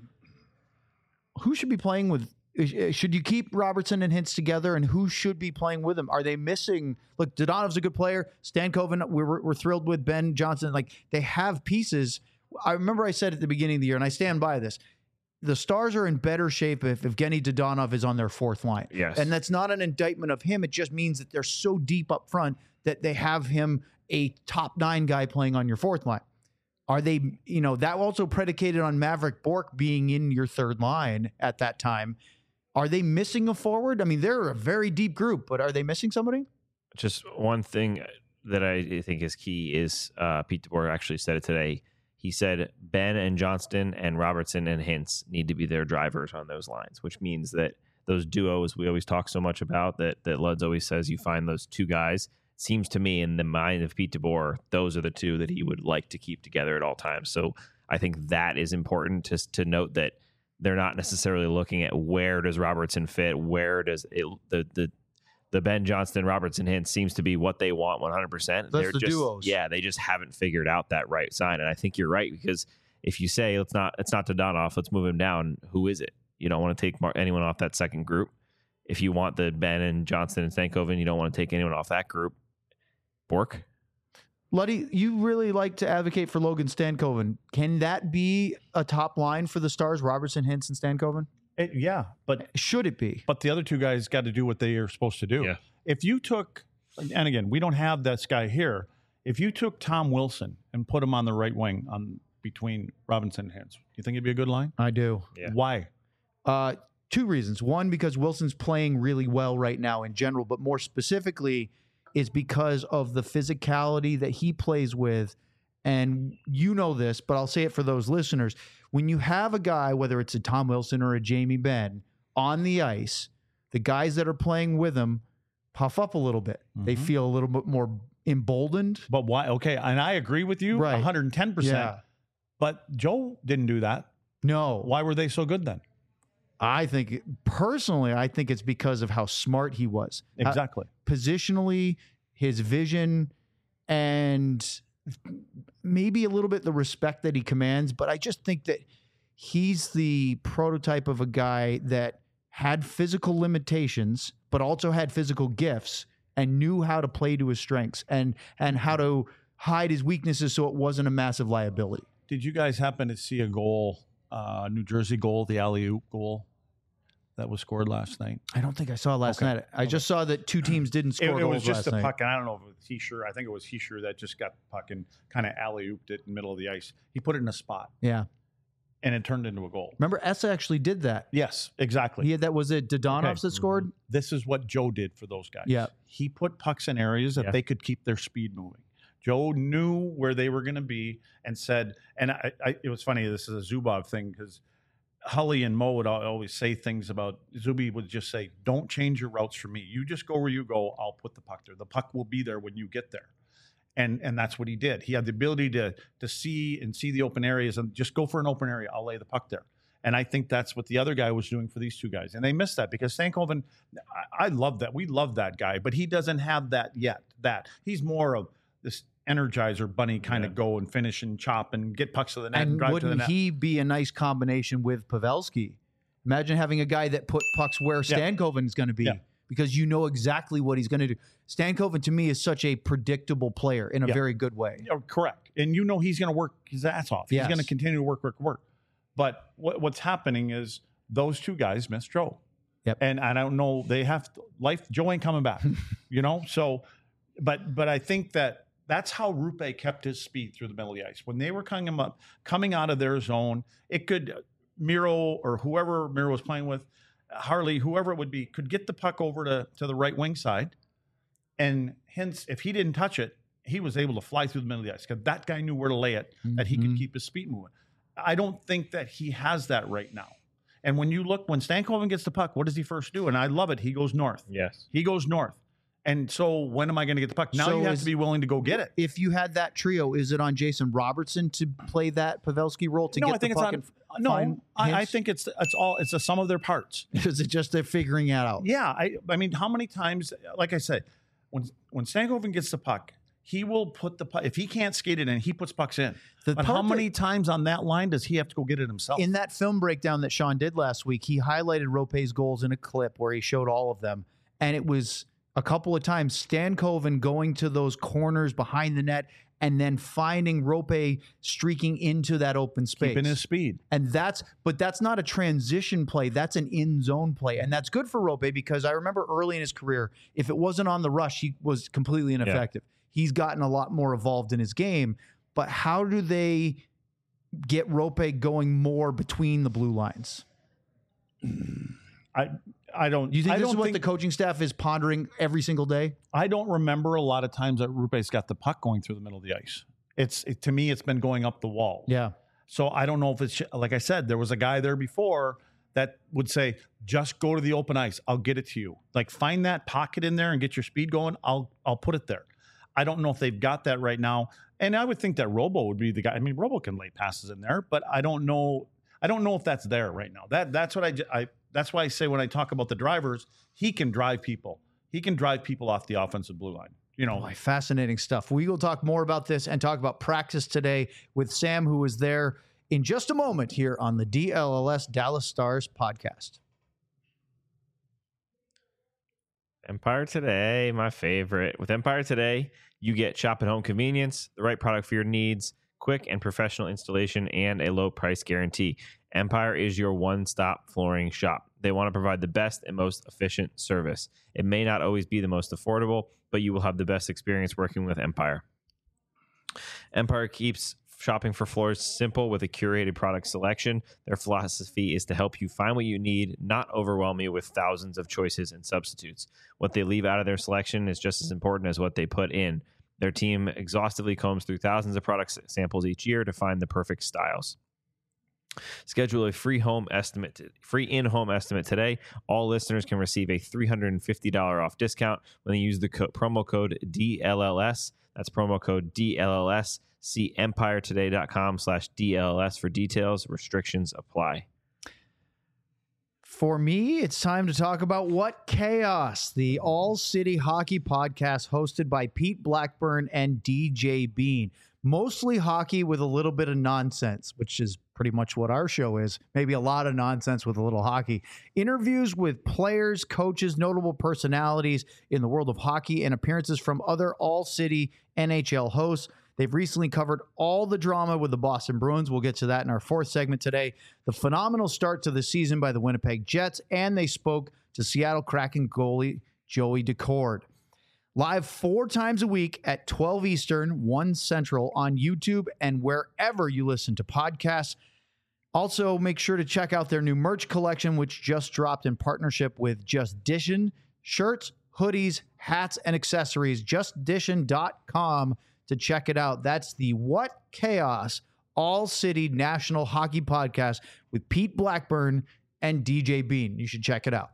Who should be playing with? Should you keep Robertson and Hintz together, and who should be playing with them? Are they missing? Look, Dodonov's a good player. Stankoven, we're thrilled with Ben Johnson. Like, they have pieces. I remember I said at the beginning of the year, and I stand by this, the Stars are in better shape if Evgeny Dodonov is on their fourth line. Yes. And that's not an indictment of him. It just means that they're so deep up front that they have him a top 9 guy playing on your fourth line. Are they, that also predicated on Maverick Bourque being in your third line at that time. Are they missing a forward? I mean, they're a very deep group, but are they missing somebody? Just one thing that I think is key is Pete DeBoer actually said it today. He said Ben and Johnston and Robertson and Hintz need to be their drivers on those lines, which means that those duos we always talk so much about, that Luds always says you find those two guys. Seems to me, in the mind of Pete DeBoer, those are the two that he would like to keep together at all times. So I think that is important to note, that they're not necessarily looking at where does Robertson fit, where does the Ben Johnston Robertson hint seems to be what they want 100%. That's the duos. Yeah, they just haven't figured out that right sign. And I think you're right, because if you say it's not Dodonov, let's move him down, who is it? You don't want to take anyone off that second group. If you want the Ben and Johnston and Stankoven, you don't want to take anyone off that group. Bork? Luddy, you really like to advocate for Logan Stankoven. Can that be a top line for the Stars, Robertson, Hintz, and Stankoven? Yeah, but Should it be? But the other two guys got to do what they are supposed to do. Yeah. If you took, and again, we don't have this guy here. If you took Tom Wilson and put him on the right wing between Robinson and Hintz, you think it'd be a good line? I do. Yeah. Why? Two reasons. One, because Wilson's playing really well right now in general, but more specifically is because of the physicality that he plays with. And you know this, but I'll say it for those listeners. When you have a guy, whether it's a Tom Wilson or a Jamie Benn, on the ice, the guys that are playing with him puff up a little bit. They feel a little bit more emboldened. But why? Okay, and I agree with you, Right. 110%. Yeah. But Joe didn't do that. No. Why were they so good then? I think, personally, I think it's because of how smart he was. Exactly. Positionally, his vision, and maybe a little bit the respect that he commands. But I just think that he's the prototype of a guy that had physical limitations, but also had physical gifts and knew how to play to his strengths and how to hide his weaknesses so it wasn't a massive liability. Did you guys happen to see a goal, New Jersey goal, the alley-oop goal that was scored last night? I don't think I saw it last Okay. night. I just saw that two teams didn't score It goals was just last a night. puck, and I don't know if it was Heischer. I think it was Heischer that just got the puck and kind of alley-ooped it in the middle of the ice. He put it in a spot, Yeah. and it turned into a goal. Remember, Essa actually did that. Yes, exactly. He had that. Was it Dodonovs Okay. that scored? This is what Joe did for those guys. Yeah. He put pucks in areas that Yeah. they could keep their speed moving. Joe knew where they were going to be and said, and it was funny, this is a Zubov thing, because Hully and Mo would always say things about, Zuby would just say, don't change your routes for me. You just go where you go. I'll put the puck there. The puck will be there when you get there. And that's what he did. He had the ability to see the open areas and just go for an open area. I'll lay the puck there. And I think that's what the other guy was doing for these two guys. And they missed that because Stankoven, I love that. We love that guy, but he doesn't have that yet. He's more of this Energizer bunny kind of go and finish and chop and get pucks to the net and And drive to the wouldn't net. he be a nice combination with Pavelski? Imagine having a guy that put pucks where Yeah. Stankoven is going to be, Yeah. because you know exactly what he's going to do. Stankoven, to me, is such a predictable player in a Yeah. very good way. Oh, correct. And you know he's going to work his ass off. He's Yes. going to continue to work. But what's happening is those two guys miss Joe. Yep. And I don't know, they have life. Joe ain't coming back, So, but I think that's how Rupe kept his speed through the middle of the ice. When they were coming out of their zone, it could Miro or whoever Miro was playing with, Harley, whoever it would be, could get the puck over to the right wing side. And hence, if he didn't touch it, he was able to fly through the middle of the ice because that guy knew where to lay it, that he could keep his speed moving. I don't think that he has that right now. And when Stankoven gets the puck, what does he first do? And I love it. He goes north. Yes. He goes north. And so when am I going to get the puck? Now So you have to be willing to go get it. If you had that trio, is it on Jason Robertson to play that Pavelski role to No, get I think the it's puck on. and No, find I hints? think it's a sum of their parts. Is it just they're figuring it out? Yeah, I mean, how many times? Like I said, when Stankoven gets the puck, he will put the puck. If he can't skate it in, he puts pucks in. The But part how that- many times on that line does he have to go get it himself? In that film breakdown that Sean did last week, he highlighted Rope's goals in a clip where he showed all of them. And it was a couple of times Stankoven going to those corners behind the net and then finding Rope streaking into that open space. Keeping his speed. And that's not a transition play. That's an in-zone play. And that's good for Rope because I remember early in his career, if it wasn't on the rush, he was completely ineffective. He's gotten a lot more evolved in his game. But how do they get Rope going more between the blue lines? I don't. You think I this is don't what think, the coaching staff is pondering every single day? I don't remember a lot of times that Rupe's got the puck going through the middle of the ice. To me, it's been going up the wall. Yeah. So I don't know if it's like I said, there was a guy there before that would say, just go to the open ice. I'll get it to you. Like, find that pocket in there and get your speed going. I'll put it there. I don't know if they've got that right now. And I would think that Robo would be the guy. I mean, Robo can lay passes in there, but I don't know if that's there right now. That's what that's why I say when I talk about the drivers, he can drive people. He can drive people off the offensive blue line. You know, boy, fascinating stuff. We will talk more about this and talk about practice today with Sam, who was there, in just a moment here on the DLLS Dallas Stars podcast. Empire Today, my favorite. With Empire Today, you get shop at home convenience, the right product for your needs, quick and professional installation, and a low price guarantee. Empire is your one-stop flooring shop. They want to provide the best and most efficient service. It may not always be the most affordable, but you will have the best experience working with Empire. Empire keeps shopping for floors simple with a curated product selection. Their philosophy is to help you find what you need, not overwhelm you with thousands of choices and substitutes. What they leave out of their selection is just as important as what they put in. Their team exhaustively combs through thousands of product samples each year to find the perfect styles. Schedule a free in-home estimate today. All listeners can receive a $350 off discount when they use the promo code DLLS. That's promo code DLLS. See empiretoday.com/DLLS for details. Restrictions apply. For me, it's time to talk about What Chaos, the all-city hockey podcast hosted by Pete Blackburn and DJ Bean. Mostly hockey with a little bit of nonsense, which is pretty much what our show is. Maybe a lot of nonsense with a little hockey. Interviews with players, coaches, notable personalities in the world of hockey, and appearances from other all-city NHL hosts. They've recently covered all the drama with the Boston Bruins. We'll get to that in our fourth segment today. The phenomenal start to the season by the Winnipeg Jets, and they spoke to Seattle Kraken goalie Joey Daccord. Live 4 times a week at 12 Eastern, 1 Central on YouTube and wherever you listen to podcasts. Also, make sure to check out their new merch collection, which just dropped in partnership with Just Dishin. Shirts, hoodies, hats, and accessories. JustDishin.com to check it out. That's the What Chaos All-City National Hockey Podcast with Pete Blackburn and DJ Bean. You should check it out.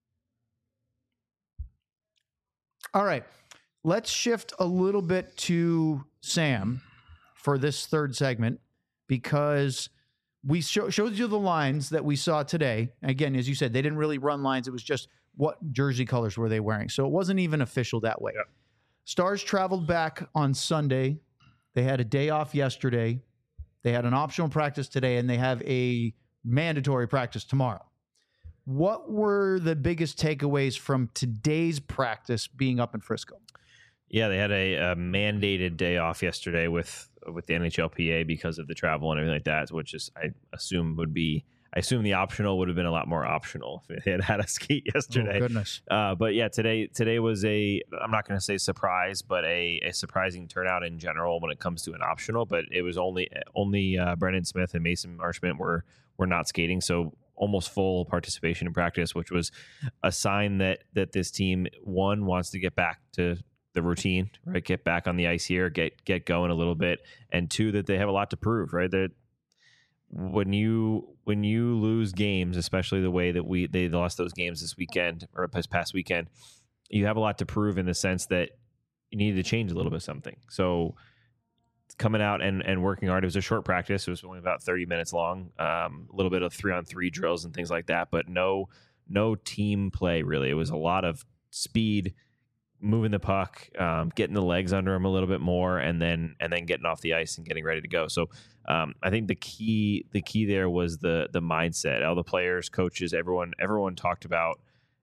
All right, let's shift a little bit to Sam for this third segment, because we showed you the lines that we saw today. Again, as you said, they didn't really run lines. It was just what jersey colors were they wearing. So it wasn't even official that way. Yep. Stars traveled back on Sunday. They had a day off yesterday. They had an optional practice today, and they have a mandatory practice tomorrow. What were the biggest takeaways from today's practice being up in Frisco? Yeah, they had a mandated day off yesterday with the NHLPA because of the travel and everything like that, which is I assume the optional would have been a lot more optional if it had a skate yesterday. Oh, goodness. But yeah, today was I'm not going to say surprise, but a surprising turnout in general when it comes to an optional. But it was only Brendan Smith and Mason Marchment were not skating, so almost full participation in practice, which was a sign that this team, one, wants to get back to the routine, right? Get back on the ice here, get going a little bit, and two, that they have a lot to prove, right? That when you lose games, especially the way that they lost those games this weekend or this past weekend, you have a lot to prove in the sense that you need to change a little bit of something. So coming out and working hard. It was a short practice. It was only about 30 minutes long. A little bit of 3-on-3 drills and things like that, but no team play really. It was a lot of speed, moving the puck, getting the legs under them a little bit more, and then getting off the ice and getting ready to go. So I think the key there was the mindset. All the players, coaches, everyone talked about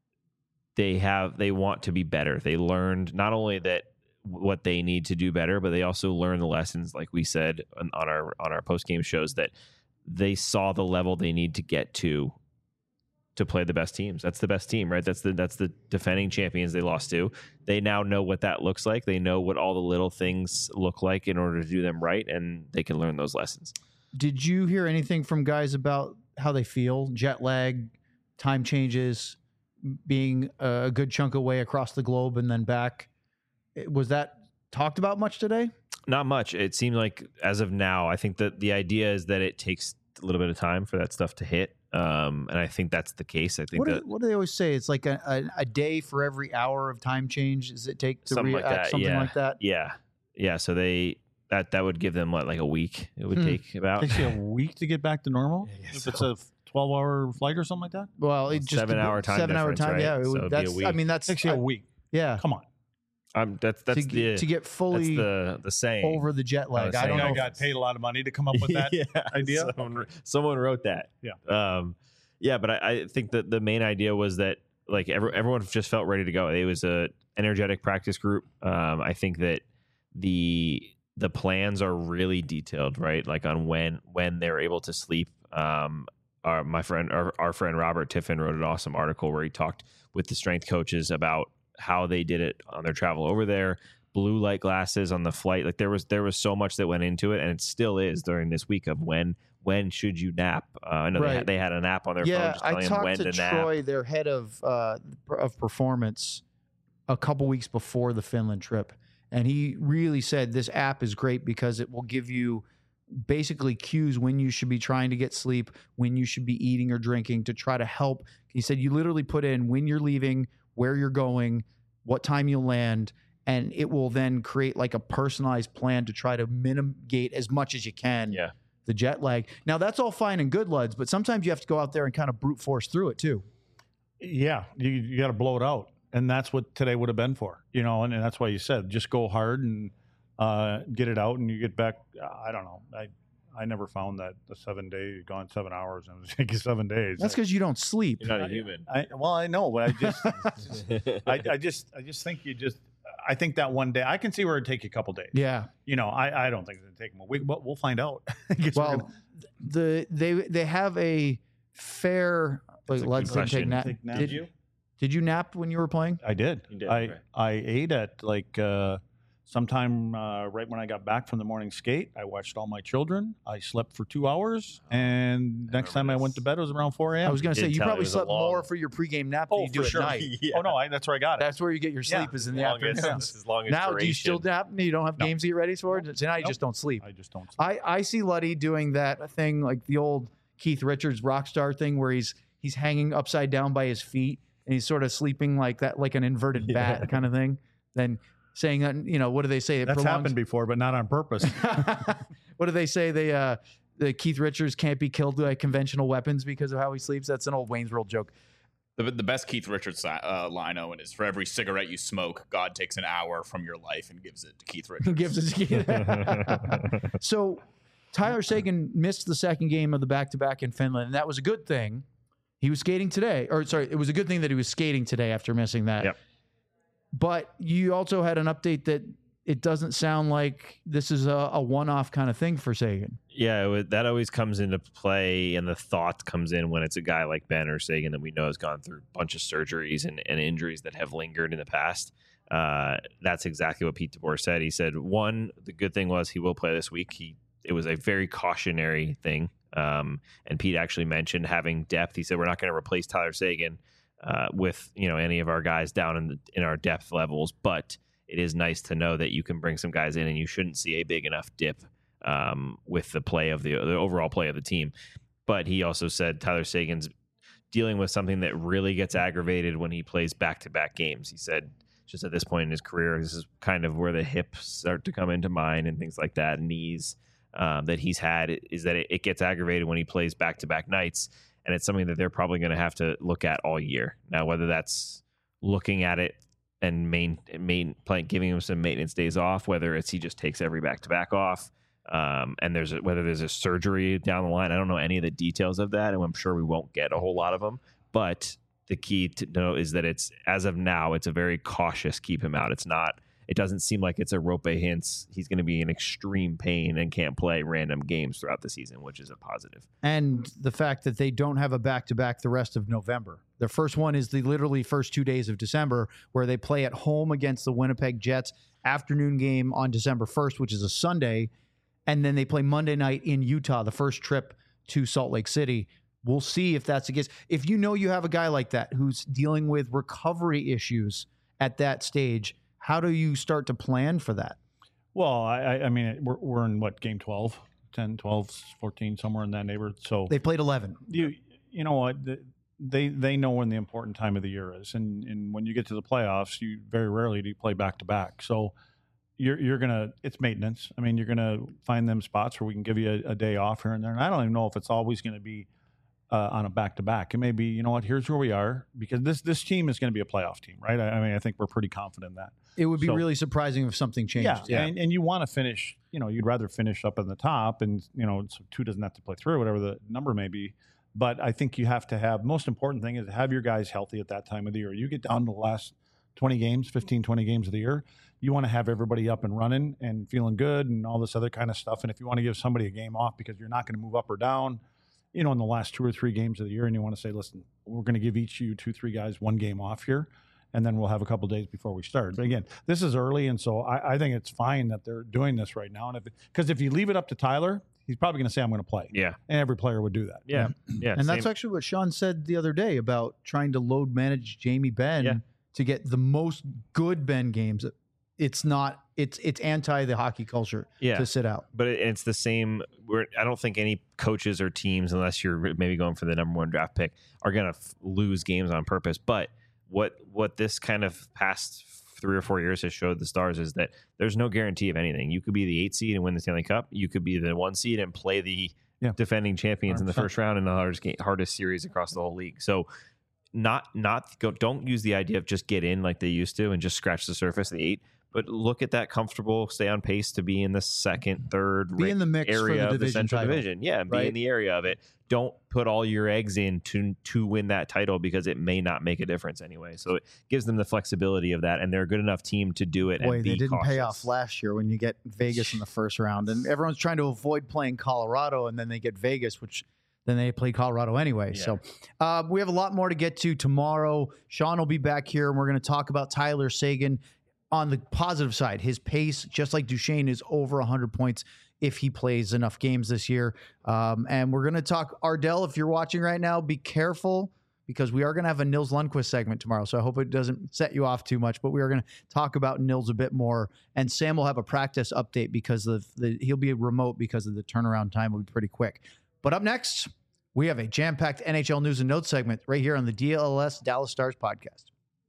they want to be better. They learned not only that what they need to do better, but they also learned the lessons, like we said on our post-game shows, that they saw the level they need to get to play the best teams. That's the best team, right? That's the defending champions they lost to. They now know what that looks like. They know what all the little things look like in order to do them right, and they can learn those lessons. Did you hear anything from guys about how they feel? Jet lag, time changes, being a good chunk away across the globe and then back. Was that talked about much today? Not much. It seemed like as of now, I think that the idea is that it takes a little bit of time for that stuff to hit. And I think that's the case. I think What do they always say? It's like a day for every hour of time change. Does it take to something react? like that. Something like that. Yeah. So that would give them like a week. It would take about Takes you a week to get back to normal if it's a 12-hour flight or something like that. Well, it just 7-hour time 7-hour difference, time. right? Yeah, So it'd be a that's. week. I mean, that's Takes you a week. Yeah, Come on. That's to the get fully that's the saying. over the jet lag. was I don't saying know. I got paid a lot of money to come up with that idea. Someone wrote that. Yeah. But I think that the main idea was that like everyone just felt ready to go. It was a energetic practice group. I think that the plans are really detailed, right? Like on when they're able to sleep. Our friend Robert Tiffin wrote an awesome article where he talked with the strength coaches about how they did it on their travel over there. Blue light glasses on the flight. Like there was so much that went into it, and it still is during this week of when should you nap. I know Right. they had an app on their phone just I telling them when talked to to nap. Troy, their head of performance, a couple weeks before the Finland trip, and he really said this app is great because it will give you basically cues when you should be trying to get sleep, when you should be eating or drinking to try to help. He said you literally put in when you're leaving, where you're going, what time you'll land, and it will then create like a personalized plan to try to mitigate as much as you can the jet lag. Now that's all fine and good, Luds, but sometimes you have to go out there and kind of brute force through it too. Yeah, you got to blow it out, and that's what today would have been for, and that's why you said just go hard and get it out, and you get back. I don't know. I never found that the 7 day gone 7 hours and it was taking 7 days. That's because you don't sleep. You're not a human. I know, but I just think I think that one day I can see where it'd take you a couple days. Yeah. I don't think it'd take them a week, but we'll find out. Well, they have a fair. Like, Luds didn't take nap. Did you nap when you were playing? I did. You did, I right. I ate at like sometime right when I got back from the morning skate. I watched all my children. I slept for 2 hours, and next time I went to bed, it was around 4 a.m. I was going to say did you tell probably it was a slept long- more for your pregame nap than you do for at sure. night. Oh no, that's where I got it. That's where you get your sleep is in the Longest- afternoon. this is longest Now, do you still duration. nap? You don't have No. games to get ready for it? So now you Nope. just don't sleep. I just don't sleep. I see Luddy doing that thing like the old Keith Richards rock star thing where he's hanging upside down by his feet and he's sort of sleeping like that, like an inverted bat kind of thing. Then saying that, what do they say? It That's prolongs- happened before, but not on purpose. What do they say? The Keith Richards can't be killed by conventional weapons because of how he sleeps. That's an old Wayne's World joke. The best Keith Richards line, Owen, is for every cigarette you smoke, God takes an hour from your life and gives it to Keith Richards. Gives it to Keith. So Tyler Sagan missed the second game of the back-to-back in Finland, and that was a good thing. He was skating today. It was a good thing that he was skating today after missing that. Yep. But you also had an update that it doesn't sound like this is a one-off kind of thing for Sagan. Yeah, that always comes into play, and the thought comes in when it's a guy like Ben or Sagan that we know has gone through a bunch of surgeries and injuries that have lingered in the past. That's exactly what Pete DeBoer said. He said, one, the good thing was he will play this week. It was a very cautionary thing. And Pete actually mentioned having depth. He said, we're not going to replace Tyler Sagan with any of our guys down in our depth levels, but it is nice to know that you can bring some guys in and you shouldn't see a big enough dip with the play of the overall play of the team. But he also said Tyler Sagan's dealing with something that really gets aggravated when he plays back-to-back games. He said just at this point in his career, this is kind of where the hips start to come into mind and things like that, knees that he's had, is that it gets aggravated when he plays back-to-back nights. And it's something that they're probably going to have to look at all year. Now, whether that's looking at it and giving him some maintenance days off, whether it's he just takes every back-to-back off, and whether there's a surgery down the line. I don't know any of the details of that, and I'm sure we won't get a whole lot of them. But the key to know is that as of now, it's a very cautious keep him out. It doesn't seem like it's a rope hints. He's going to be in extreme pain and can't play random games throughout the season, which is a positive. And the fact that they don't have a back-to-back the rest of November. Their first one is the literally first 2 days of December, where they play at home against the Winnipeg Jets, afternoon game on December 1st, which is a Sunday, and then they play Monday night in Utah, the first trip to Salt Lake City. We'll see if that's the case. If you have a guy like that who's dealing with recovery issues at that stage, how do you start to plan for that? Well, I mean, we're in what, game 12, 10, 12, 14, somewhere in that neighborhood. So They played 11. you know what, they know when the important time of the year is, and when you get to the playoffs, you very rarely do you play back to back. So you're gonna, it's maintenance. I mean, you're gonna find them spots where we can give you a day off here and there. And I don't even know if it's always going to be on a back to back. It may be, you know what, here's where we are, because this team is going to be a playoff team, right? I mean, I think we're pretty confident in that. It would be really surprising if something changed. Yeah. And you want to finish, you know, you'd rather finish up in the top, and, you know, so 2 doesn't have to play through, whatever the number may be. But I think you have to have, most important thing is to have your guys healthy at that time of the year. You get down to the last 20 games, 15, 20 games of the year, you want to have everybody up and running and feeling good and all this other kind of stuff. And if you want to give somebody a game off because you're not going to move up or down, you know, in the last 2 or 3 games of the year, and you want to say, listen, we're going to give each of you 2, 3 guys 1 game off here, and then we'll have a couple days before we start. But again, this is early, and so I think it's fine that they're doing this right now. And because if you leave it up to Tyler, he's probably going to say, I'm going to play. Yeah. And every player would do that. Yeah. Yeah. And that's actually what Sean said the other day about trying to load manage Jamie Benn to get the most good Ben games. It's not, it's anti the hockey culture to sit out. But it's the same. I don't think any coaches or teams, unless you're maybe going for the number 1 draft pick, are going to lose games on purpose. But what this kind of past 3 or 4 years has showed the Stars is that there's no guarantee of anything. You could be the 8 seed and win the Stanley Cup. You could be the 1 seed and play the defending champions 100%. In the first round in the hardest series across the whole league. So don't use the idea of just get in like they used to and just scratch the surface of the 8. But look at that comfortable, stay on pace to be in the second, third be in the mix area for the of the Central title. Division. Yeah, be in the area of it. Don't put all your eggs in to win that title, because it may not make a difference anyway. So it gives them the flexibility of that, and they're a good enough team to do it. Boy, and be they didn't cautious. pay off last year when you get Vegas in the first round, and everyone's trying to avoid playing Colorado, and then they get Vegas, which then they play Colorado anyway. Yeah. So we have a lot more to get to tomorrow. Sean will be back here, and we're going to talk about Tyler Seguin. On the positive side, his pace, just like Duchesne, is over 100 points if he plays enough games this year. And we're going to talk Ardell. If you're watching right now, be careful, because we are going to have a Nils Lundqvist segment tomorrow. So I hope it doesn't set you off too much, but we are going to talk about Nils a bit more. And Sam will have a practice update because he'll be remote because of the turnaround time will be pretty quick. But up next, we have a jam-packed NHL news and notes segment right here on the DLS Dallas Stars podcast.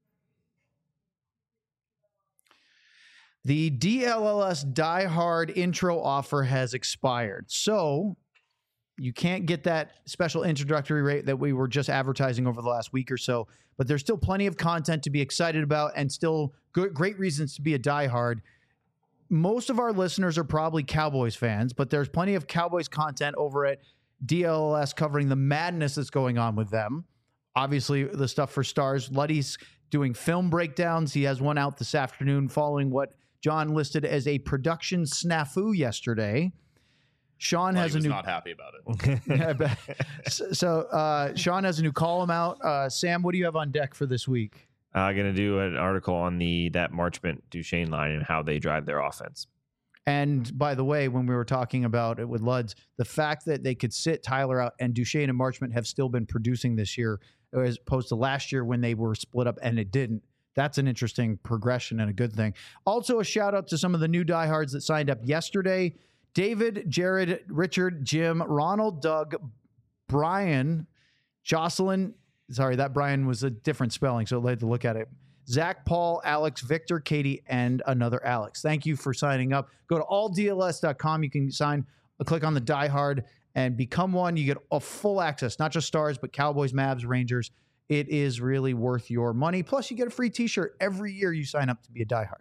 The DLLS Die Hard intro offer has expired, so you can't get that special introductory rate that we were just advertising over the last week or so, but there's still plenty of content to be excited about and still great reasons to be a Die Hard. Most of our listeners are probably Cowboys fans, but there's plenty of Cowboys content over at DLLS covering the madness that's going on with them. Obviously, the stuff for Stars. Luddy's doing film breakdowns. He has one out this afternoon following what John listed as a production snafu yesterday. Sean has not happy about it. So Sean has a new column out. Sam, what do you have on deck for this week? I'm going to do an article on that Marchment Duchesne line and how they drive their offense. And by the way, when we were talking about it with Luds, the fact that they could sit Tyler out and Duchesne and Marchment have still been producing this year as opposed to last year when they were split up and it didn't. That's an interesting progression and a good thing. Also, a shout out to some of the new diehards that signed up yesterday. David, Jared, Richard, Jim, Ronald, Doug, Brian, Jocelyn. Sorry, that Brian was a different spelling, so I had to look at it. Zach, Paul, Alex, Victor, Katie, and another Alex. Thank you for signing up. Go to alldls.com. You can click on the Die Hard and become one. You get a full access, not just Stars, but Cowboys, Mavs, Rangers. It is really worth your money. Plus, you get a free t-shirt every year you sign up to be a Die Hard.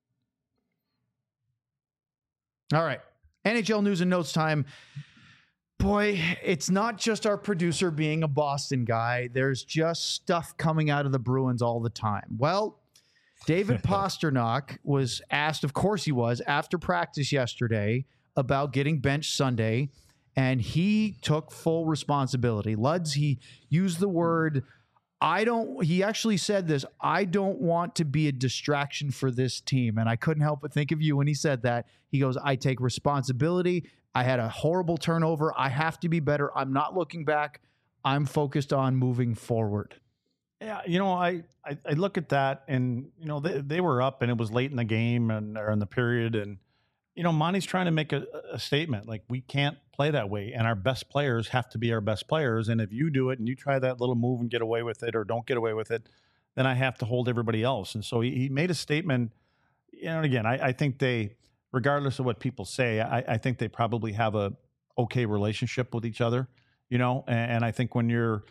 All right. NHL news and notes time. Boy, it's not just our producer being a Boston guy. There's just stuff coming out of the Bruins all the time. Well, David Pastrnak was asked, of course he was, after practice yesterday about getting benched Sunday, and he took full responsibility. Luds, he used the word, he actually said this, I don't want to be a distraction for this team. And I couldn't help but think of you when he said that. He goes, I take responsibility. I had a horrible turnover. I have to be better. I'm not looking back. I'm focused on moving forward. Yeah, I look at that, and they were up, and it was late in the game or in the period, and Monty's trying to make a statement. Like, we can't play that way, and our best players have to be our best players. And if you do it and you try that little move and get away with it or don't get away with it, then I have to hold everybody else. And so he made a statement. And again, I think they, regardless of what people say, I think they probably have a okay relationship with each other, and I think when you're,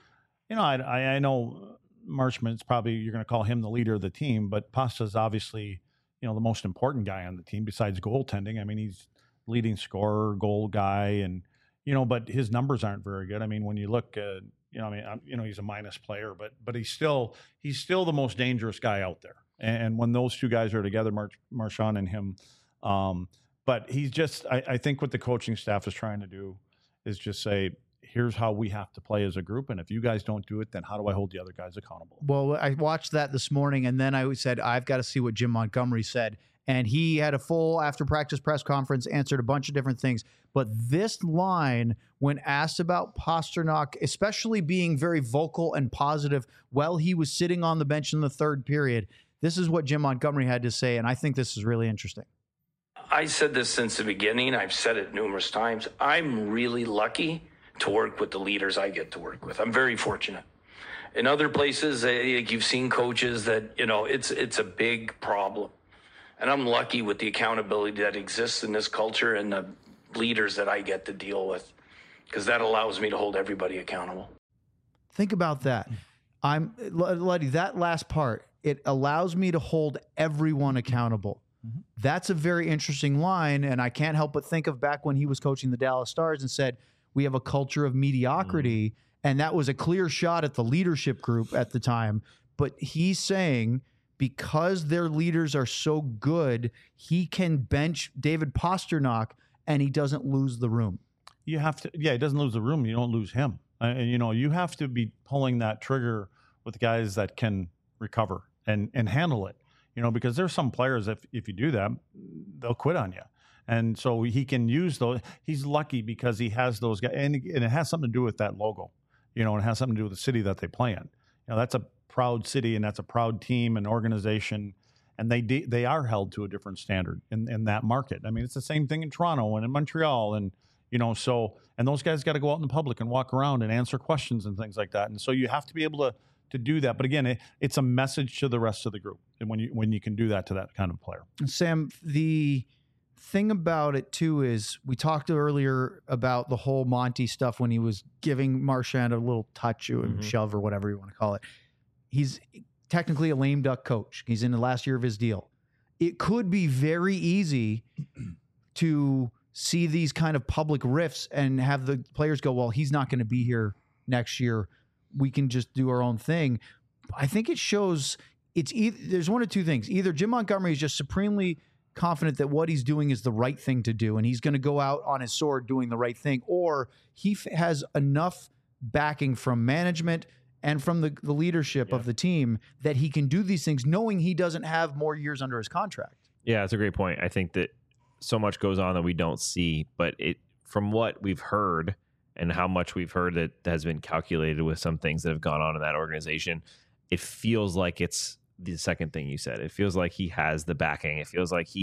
I know Marchment's probably, you're going to call him the leader of the team, but Pasta's obviously, the most important guy on the team besides goaltending. I mean, he's leading scorer, goal guy, and, but his numbers aren't very good. I mean, when you look at, he's a minus player, but he's still the most dangerous guy out there. And when those two guys are together, Marchand and him, but he's just, I think what the coaching staff is trying to do is just say, here's how we have to play as a group. And if you guys don't do it, then how do I hold the other guys accountable? Well, I watched that this morning, and then I said, I've got to see what Jim Montgomery said. And he had a full after practice press conference, answered a bunch of different things. But this line, when asked about Pastrnak, especially being very vocal and positive while he was sitting on the bench in the third period, this is what Jim Montgomery had to say. And I think this is really interesting. I said this since the beginning. I've said it numerous times. I'm really lucky to work with the leaders I get to work with. I'm very fortunate. In other places, you've seen coaches that, it's a big problem. And I'm lucky with the accountability that exists in this culture and the leaders that I get to deal with, because that allows me to hold everybody accountable. Think about that. Luddy, that last part, it allows me to hold everyone accountable. Mm-hmm. That's a very interesting line, and I can't help but think of back when he was coaching the Dallas Stars and said, we have a culture of mediocrity, and that was a clear shot at the leadership group at the time. But he's saying because their leaders are so good, he can bench David Pastrnak, and he doesn't lose the room. You have to, he doesn't lose the room. You don't lose him. And you have to be pulling that trigger with guys that can recover and handle it. Because there's some players, if you do that, they'll quit on you. And so he can use those. He's lucky because he has those guys. And it has something to do with that logo, and it has something to do with the city that they play in. That's a proud city, and that's a proud team and organization. And they are held to a different standard in that market. I mean, it's the same thing in Toronto and in Montreal. And, and those guys got to go out in the public and walk around and answer questions and things like that. And so you have to be able to do that. But again, it's a message to the rest of the group. And when you can do that to that kind of player. Sam, the thing about it too is we talked earlier about the whole Monty stuff when he was giving Marchand a little touch or shove or whatever you want to call it. He's technically a lame duck coach. He's in the last year of his deal. It could be very easy to see these kind of public rifts and have the players go, well, he's not going to be here next year. We can just do our own thing. I think it shows there's one of two things. Either Jim Montgomery is just supremely confident that what he's doing is the right thing to do, and he's going to go out on his sword doing the right thing, or he has enough backing from management and from the leadership of the team that he can do these things knowing he doesn't have more years under his contract. Yeah, that's a great point. I think that so much goes on that we don't see, but from what we've heard and how much we've heard that has been calculated with some things that have gone on in that organization, it feels like it's the second thing you said. It feels like he has the backing. It feels like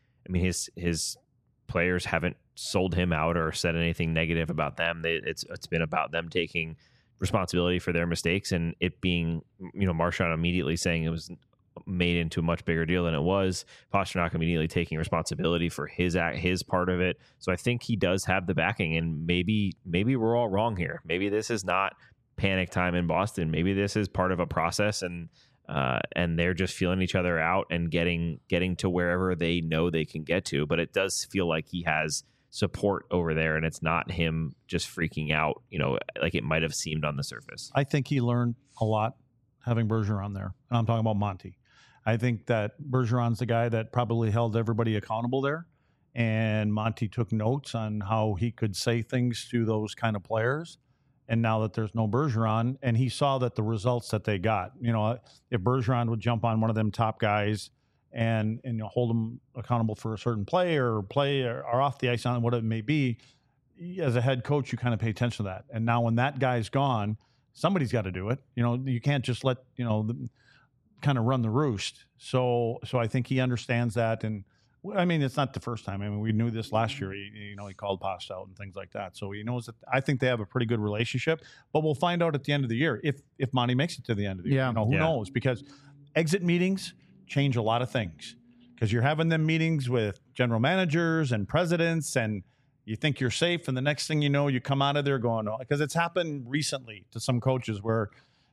his players haven't sold him out or said anything negative about them. It's been about them taking responsibility for their mistakes, and it being, Marchand immediately saying it was made into a much bigger deal than it was. Pastrnak immediately taking responsibility for his part of it. So I think he does have the backing, and maybe we're all wrong here. Maybe this is not panic time in Boston. Maybe this is part of a process, and they're just feeling each other out and getting to wherever they know they can get to. But it does feel like he has support over there, and it's not him just freaking out, like it might have seemed on the surface. I think he learned a lot having Bergeron there. And I'm talking about Monty. I think that Bergeron's the guy that probably held everybody accountable there. And Monty took notes on how he could say things to those kind of players. And now that there's no Bergeron, and he saw that the results that they got, if Bergeron would jump on one of them top guys and hold them accountable for a certain play or off the ice on what it may be, as a head coach, you kind of pay attention to that. And now when that guy's gone, somebody's got to do it. You can't just let, kind of run the roost. So I think he understands that. And I mean, it's not the first time. I mean, we knew this last year. He called Pasta out and things like that. So he knows that. I think they have a pretty good relationship. But we'll find out at the end of the year if Monty makes it to the end of the year. Who knows? Because exit meetings change a lot of things. Because you're having them meetings with general managers and presidents, and you think you're safe, and the next thing you know, you come out of there going, because it's happened recently to some coaches where,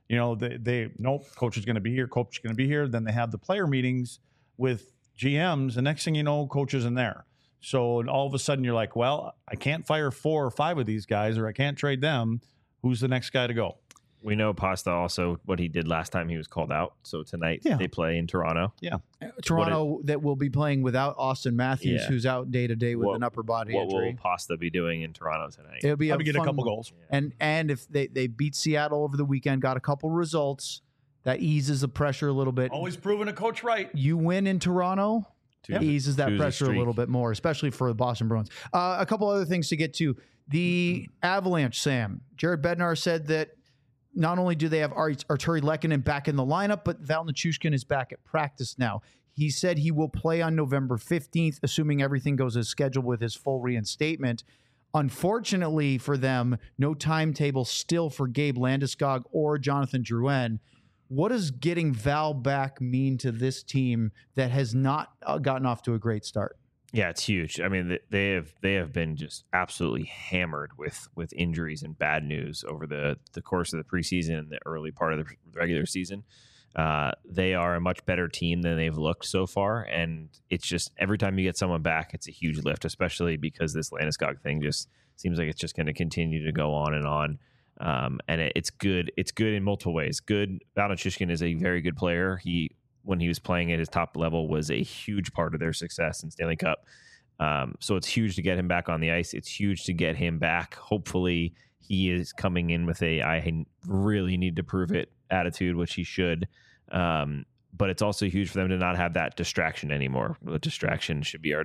they nope, coach is going to be here, coach is going to be here. Then they have the player meetings with GMs. The next thing you know, coach isn't there. So all of a sudden you're like, well, I can't fire 4 or 5 of these guys, or I can't trade them. Who's the next guy to go? We know Pasta also what he did last time he was called out. So tonight they play in Toronto. Yeah. Toronto that will be playing without Austin Matthews, who's out day to day with an upper body injury. What will Pasta be doing in Toronto tonight? It'll be get a couple goals. And if they beat Seattle over the weekend, got a couple results, that eases the pressure a little bit. Always proving a coach right. You win in Toronto, eases that pressure a little bit more, especially for the Boston Bruins. A couple other things to get to. The Avalanche, Sam. Jared Bednar said that not only do they have Arturi Lehkonen back in the lineup, but Val Nichushkin is back at practice now. He said he will play on November 15th, assuming everything goes as scheduled with his full reinstatement. Unfortunately for them, no timetable still for Gabe Landeskog or Jonathan Drouin. What does getting Val back mean to this team that has not gotten off to a great start? Yeah, it's huge. I mean, they have been just absolutely hammered with injuries and bad news over the course of the preseason and the early part of the regular season. They are a much better team than they've looked so far, and it's just every time you get someone back, it's a huge lift, especially because this Landeskog thing just seems like it's just going to continue to go on and on. And it's good. It's good in multiple ways. Good. Val Nichushkin is a very good player. When he was playing at his top level, was a huge part of their success in Stanley Cup. So it's huge to get him back on the ice. It's huge to get him back. Hopefully he is coming in with I really need to prove it attitude, which he should. But it's also huge for them to not have that distraction anymore. The distraction should be our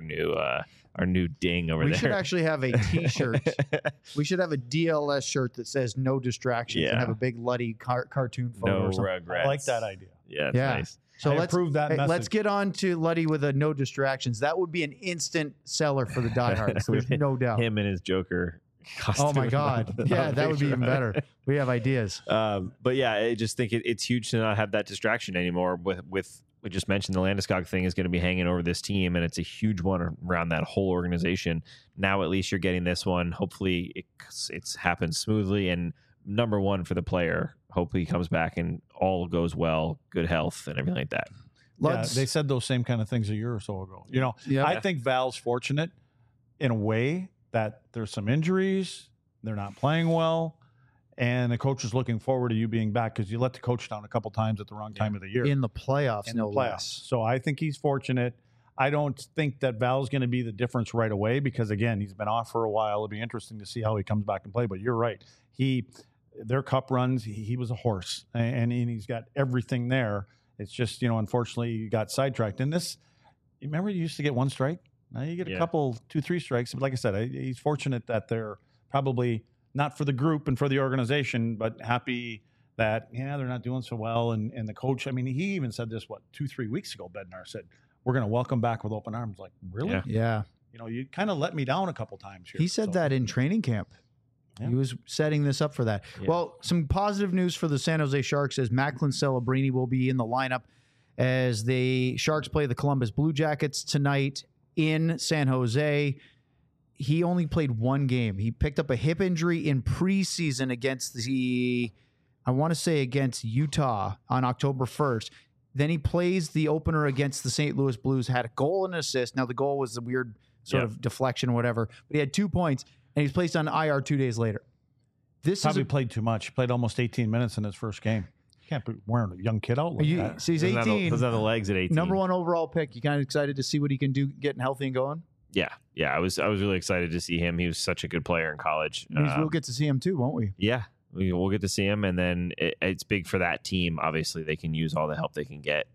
new ding over there. We should actually have a T-shirt. We should have a DLS shirt that says "No distractions" and have a big Luddy cartoon photo. No or something. regrets. I like that idea. Yeah, it's nice. So let's get on to Luddy with a no distractions. That would be an instant seller for the diehards. There's no doubt. Him and his Joker costume. Oh my God. Yeah, that would be even better. We have ideas. But yeah, I just think it's huge to not have that distraction anymore. With we just mentioned the Landeskog thing is going to be hanging over this team, and it's a huge one around that whole organization. Now at least you're getting this one. Hopefully it's happened smoothly, and number one for the player. Hopefully he comes back and all goes well, good health and everything like that. They said those same kind of things a year or so ago. I think Val's fortunate in a way that there's some injuries, they're not playing well, and the coach is looking forward to you being back because you let the coach down a couple times at the wrong time of the year. In the playoffs, less. So I think he's fortunate. I don't think that Val's going to be the difference right away because, again, he's been off for a while. It'll be interesting to see how he comes back and play. But you're right. Their cup runs, he was a horse, and he's got everything there. It's just, unfortunately, he got sidetracked. And this, remember you used to get one strike? Now you get a couple, 2-3 strikes. But like I said, he's fortunate that they're probably not for the group and for the organization, but happy that, they're not doing so well. And the coach, I mean, he even said this, 2-3 weeks ago, Bednar said, we're going to welcome back with open arms. Like, really? Yeah. You kind of let me down a couple times here. He said that in training camp. Yeah. He was setting this up for that. Yeah. Well, some positive news for the San Jose Sharks is Macklin Celebrini will be in the lineup as the Sharks play the Columbus Blue Jackets tonight in San Jose. He only played one game. He picked up a hip injury in preseason against against Utah on October 1st. Then he plays the opener against the St. Louis Blues, had a goal and an assist. Now, the goal was a weird sort of deflection or whatever, but he had 2 points. And he's placed on IR 2 days later. Probably played too much. He played almost 18 minutes in his first game. You can't be wearing a young kid out like that. So he's 18. Doesn't have the legs at 18. Number 1 overall pick. You kind of excited to see what he can do getting healthy and going? Yeah. I was really excited to see him. He was such a good player in college. We'll get to see him too, won't we? Yeah. We'll get to see him, and then it's big for that team. Obviously, they can use all the help they can get.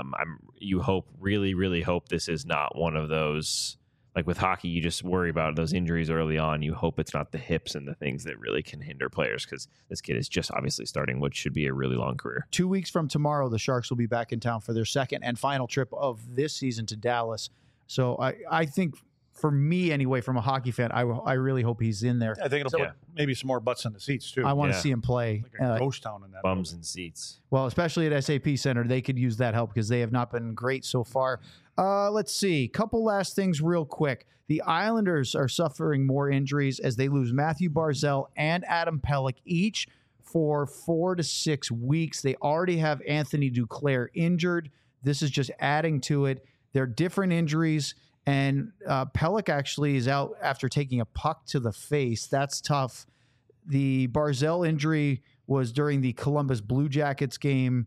Really, really hope this is not one of those. Like with hockey, you just worry about those injuries early on. You hope it's not the hips and the things that really can hinder players because this kid is just obviously starting what should be a really long career. 2 weeks from tomorrow, the Sharks will be back in town for their second and final trip of this season to Dallas. So I think for me anyway, from a hockey fan, I really hope he's in there. I think it'll put maybe some more butts in the seats too. I want to see him play. Like a ghost town in that bums building. and seats. Well, especially at SAP Center, they could use that help because they have not been great so far. Let's see. Couple last things real quick. The Islanders are suffering more injuries as they lose Matthew Barzal and Adam Pelech each for 4 to 6 weeks. They already have Anthony Duclair injured. This is just adding to it. They're different injuries, and Pelech actually is out after taking a puck to the face. That's tough. The Barzal injury was during the Columbus Blue Jackets game.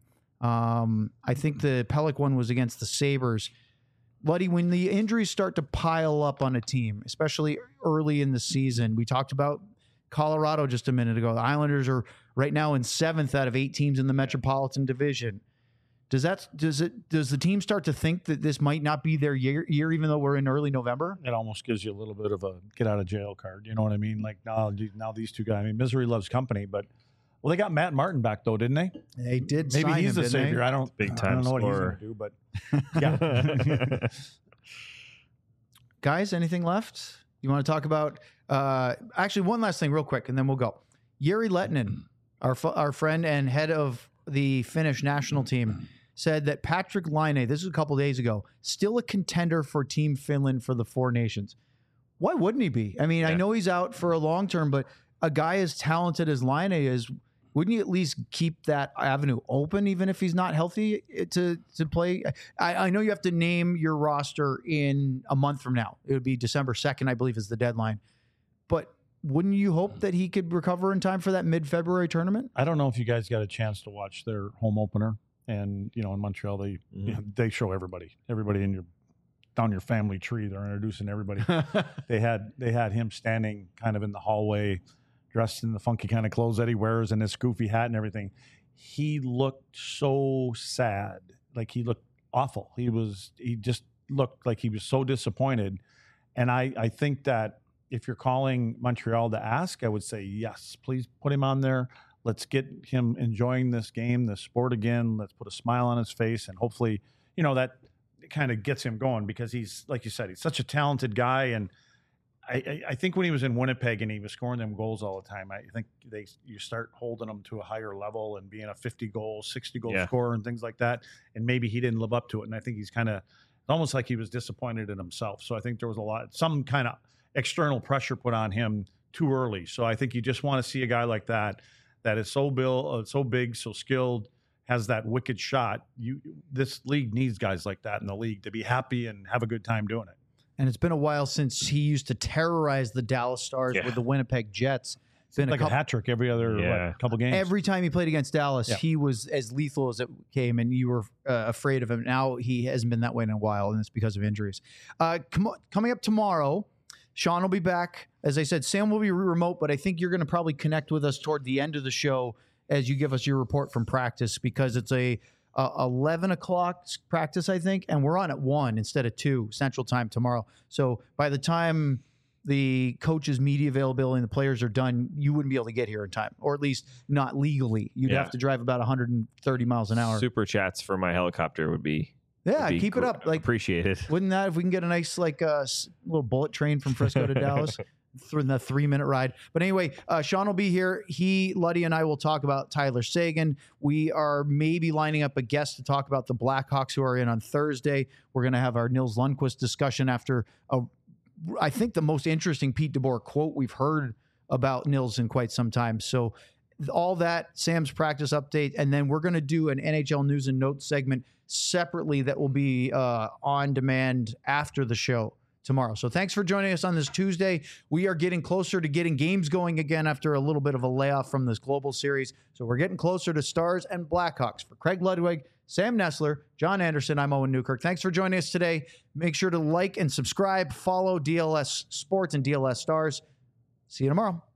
I think the Pelech one was against the Sabres. Luddy, when the injuries start to pile up on a team, especially early in the season, we talked about Colorado just a minute ago. The Islanders are right now in 7th out of 8 teams in the Metropolitan Division. Does the team start to think that this might not be their year, even though we're in early November? It almost gives you a little bit of a get out of jail card. You know what I mean? Like now these two guys. I mean, misery loves company, but they got Matt Martin back though, didn't they? They did. Maybe sign he's him, the savior. they? I don't know what he's going to do, but yeah. Guys, anything left? You want to talk about? Actually, one last thing, real quick, and then we'll go. Jere Lehtinen, our friend and head of the Finnish national team, said that Patrick Laine, this was a couple days ago, still a contender for Team Finland for the Four Nations. Why wouldn't he be? I mean, I know he's out for a long term, but a guy as talented as Laine is, wouldn't you at least keep that avenue open, even if he's not healthy to play? I know you have to name your roster in a month from now. It would be December 2nd, I believe, is the deadline. But wouldn't you hope that he could recover in time for that mid-February tournament? I don't know if you guys got a chance to watch their home opener. And, in Montreal, they show everybody in down your family tree. They're introducing everybody. They had him standing kind of in the hallway, dressed in the funky kind of clothes that he wears and his goofy hat and everything. He looked so sad. Like he looked awful. He just looked like he was so disappointed. And I think that if you're calling Montreal to ask, I would say, yes, please put him on there. Let's get him enjoying this game, this sport again. Let's put a smile on his face. And hopefully, that kind of gets him going because he's, like you said, he's such a talented guy. And I think when he was in Winnipeg and he was scoring them goals all the time, I think you start holding him to a higher level and being a 50-goal, 60-goal scorer and things like that. And maybe he didn't live up to it. And I think he's almost like he was disappointed in himself. So I think there was some kind of external pressure put on him too early. So I think you just want to see a guy like that is so big, so skilled, has that wicked shot. This league needs guys like that in the league to be happy and have a good time doing it. And it's been a while since he used to terrorize the Dallas Stars with the Winnipeg Jets. It's been like a hat trick every other couple games. Every time he played against Dallas, he was as lethal as it came, and you were afraid of him. Now he hasn't been that way in a while, and it's because of injuries. Coming up tomorrow, Sean will be back. As I said, Sam will be remote, but I think you're going to probably connect with us toward the end of the show as you give us your report from practice because it's a 11 o'clock practice, I think, and we're on at 1 instead of 2 Central Time tomorrow. So by the time the coaches' media availability and the players are done, you wouldn't be able to get here in time, or at least not legally. You'd have to drive about 130 miles an hour. Super chats for my helicopter would be keep it up. Appreciate it. Wouldn't that, if we can get a nice little bullet train from Frisco to Dallas? Through the 3-minute ride. But anyway, Sean will be here. Luddy and I will talk about Tyler Seguin. We are maybe lining up a guest to talk about the Blackhawks who are in on Thursday. We're going to have our Nils Lundqvist discussion after, I think, the most interesting Pete DeBoer quote we've heard about Nils in quite some time. So all that, Sam's practice update, and then we're going to do an NHL news and notes segment separately that will be on demand after the show tomorrow. So thanks for joining us on this Tuesday. We are getting closer to getting games going again after a little bit of a layoff from this global series. So we're getting closer to Stars and Blackhawks. For Craig Ludwig, Sam Nessler, John Anderson, I'm Owen Newkirk. Thanks for joining us today. Make sure to like and subscribe, follow DLS Sports and DLS Stars. See you tomorrow.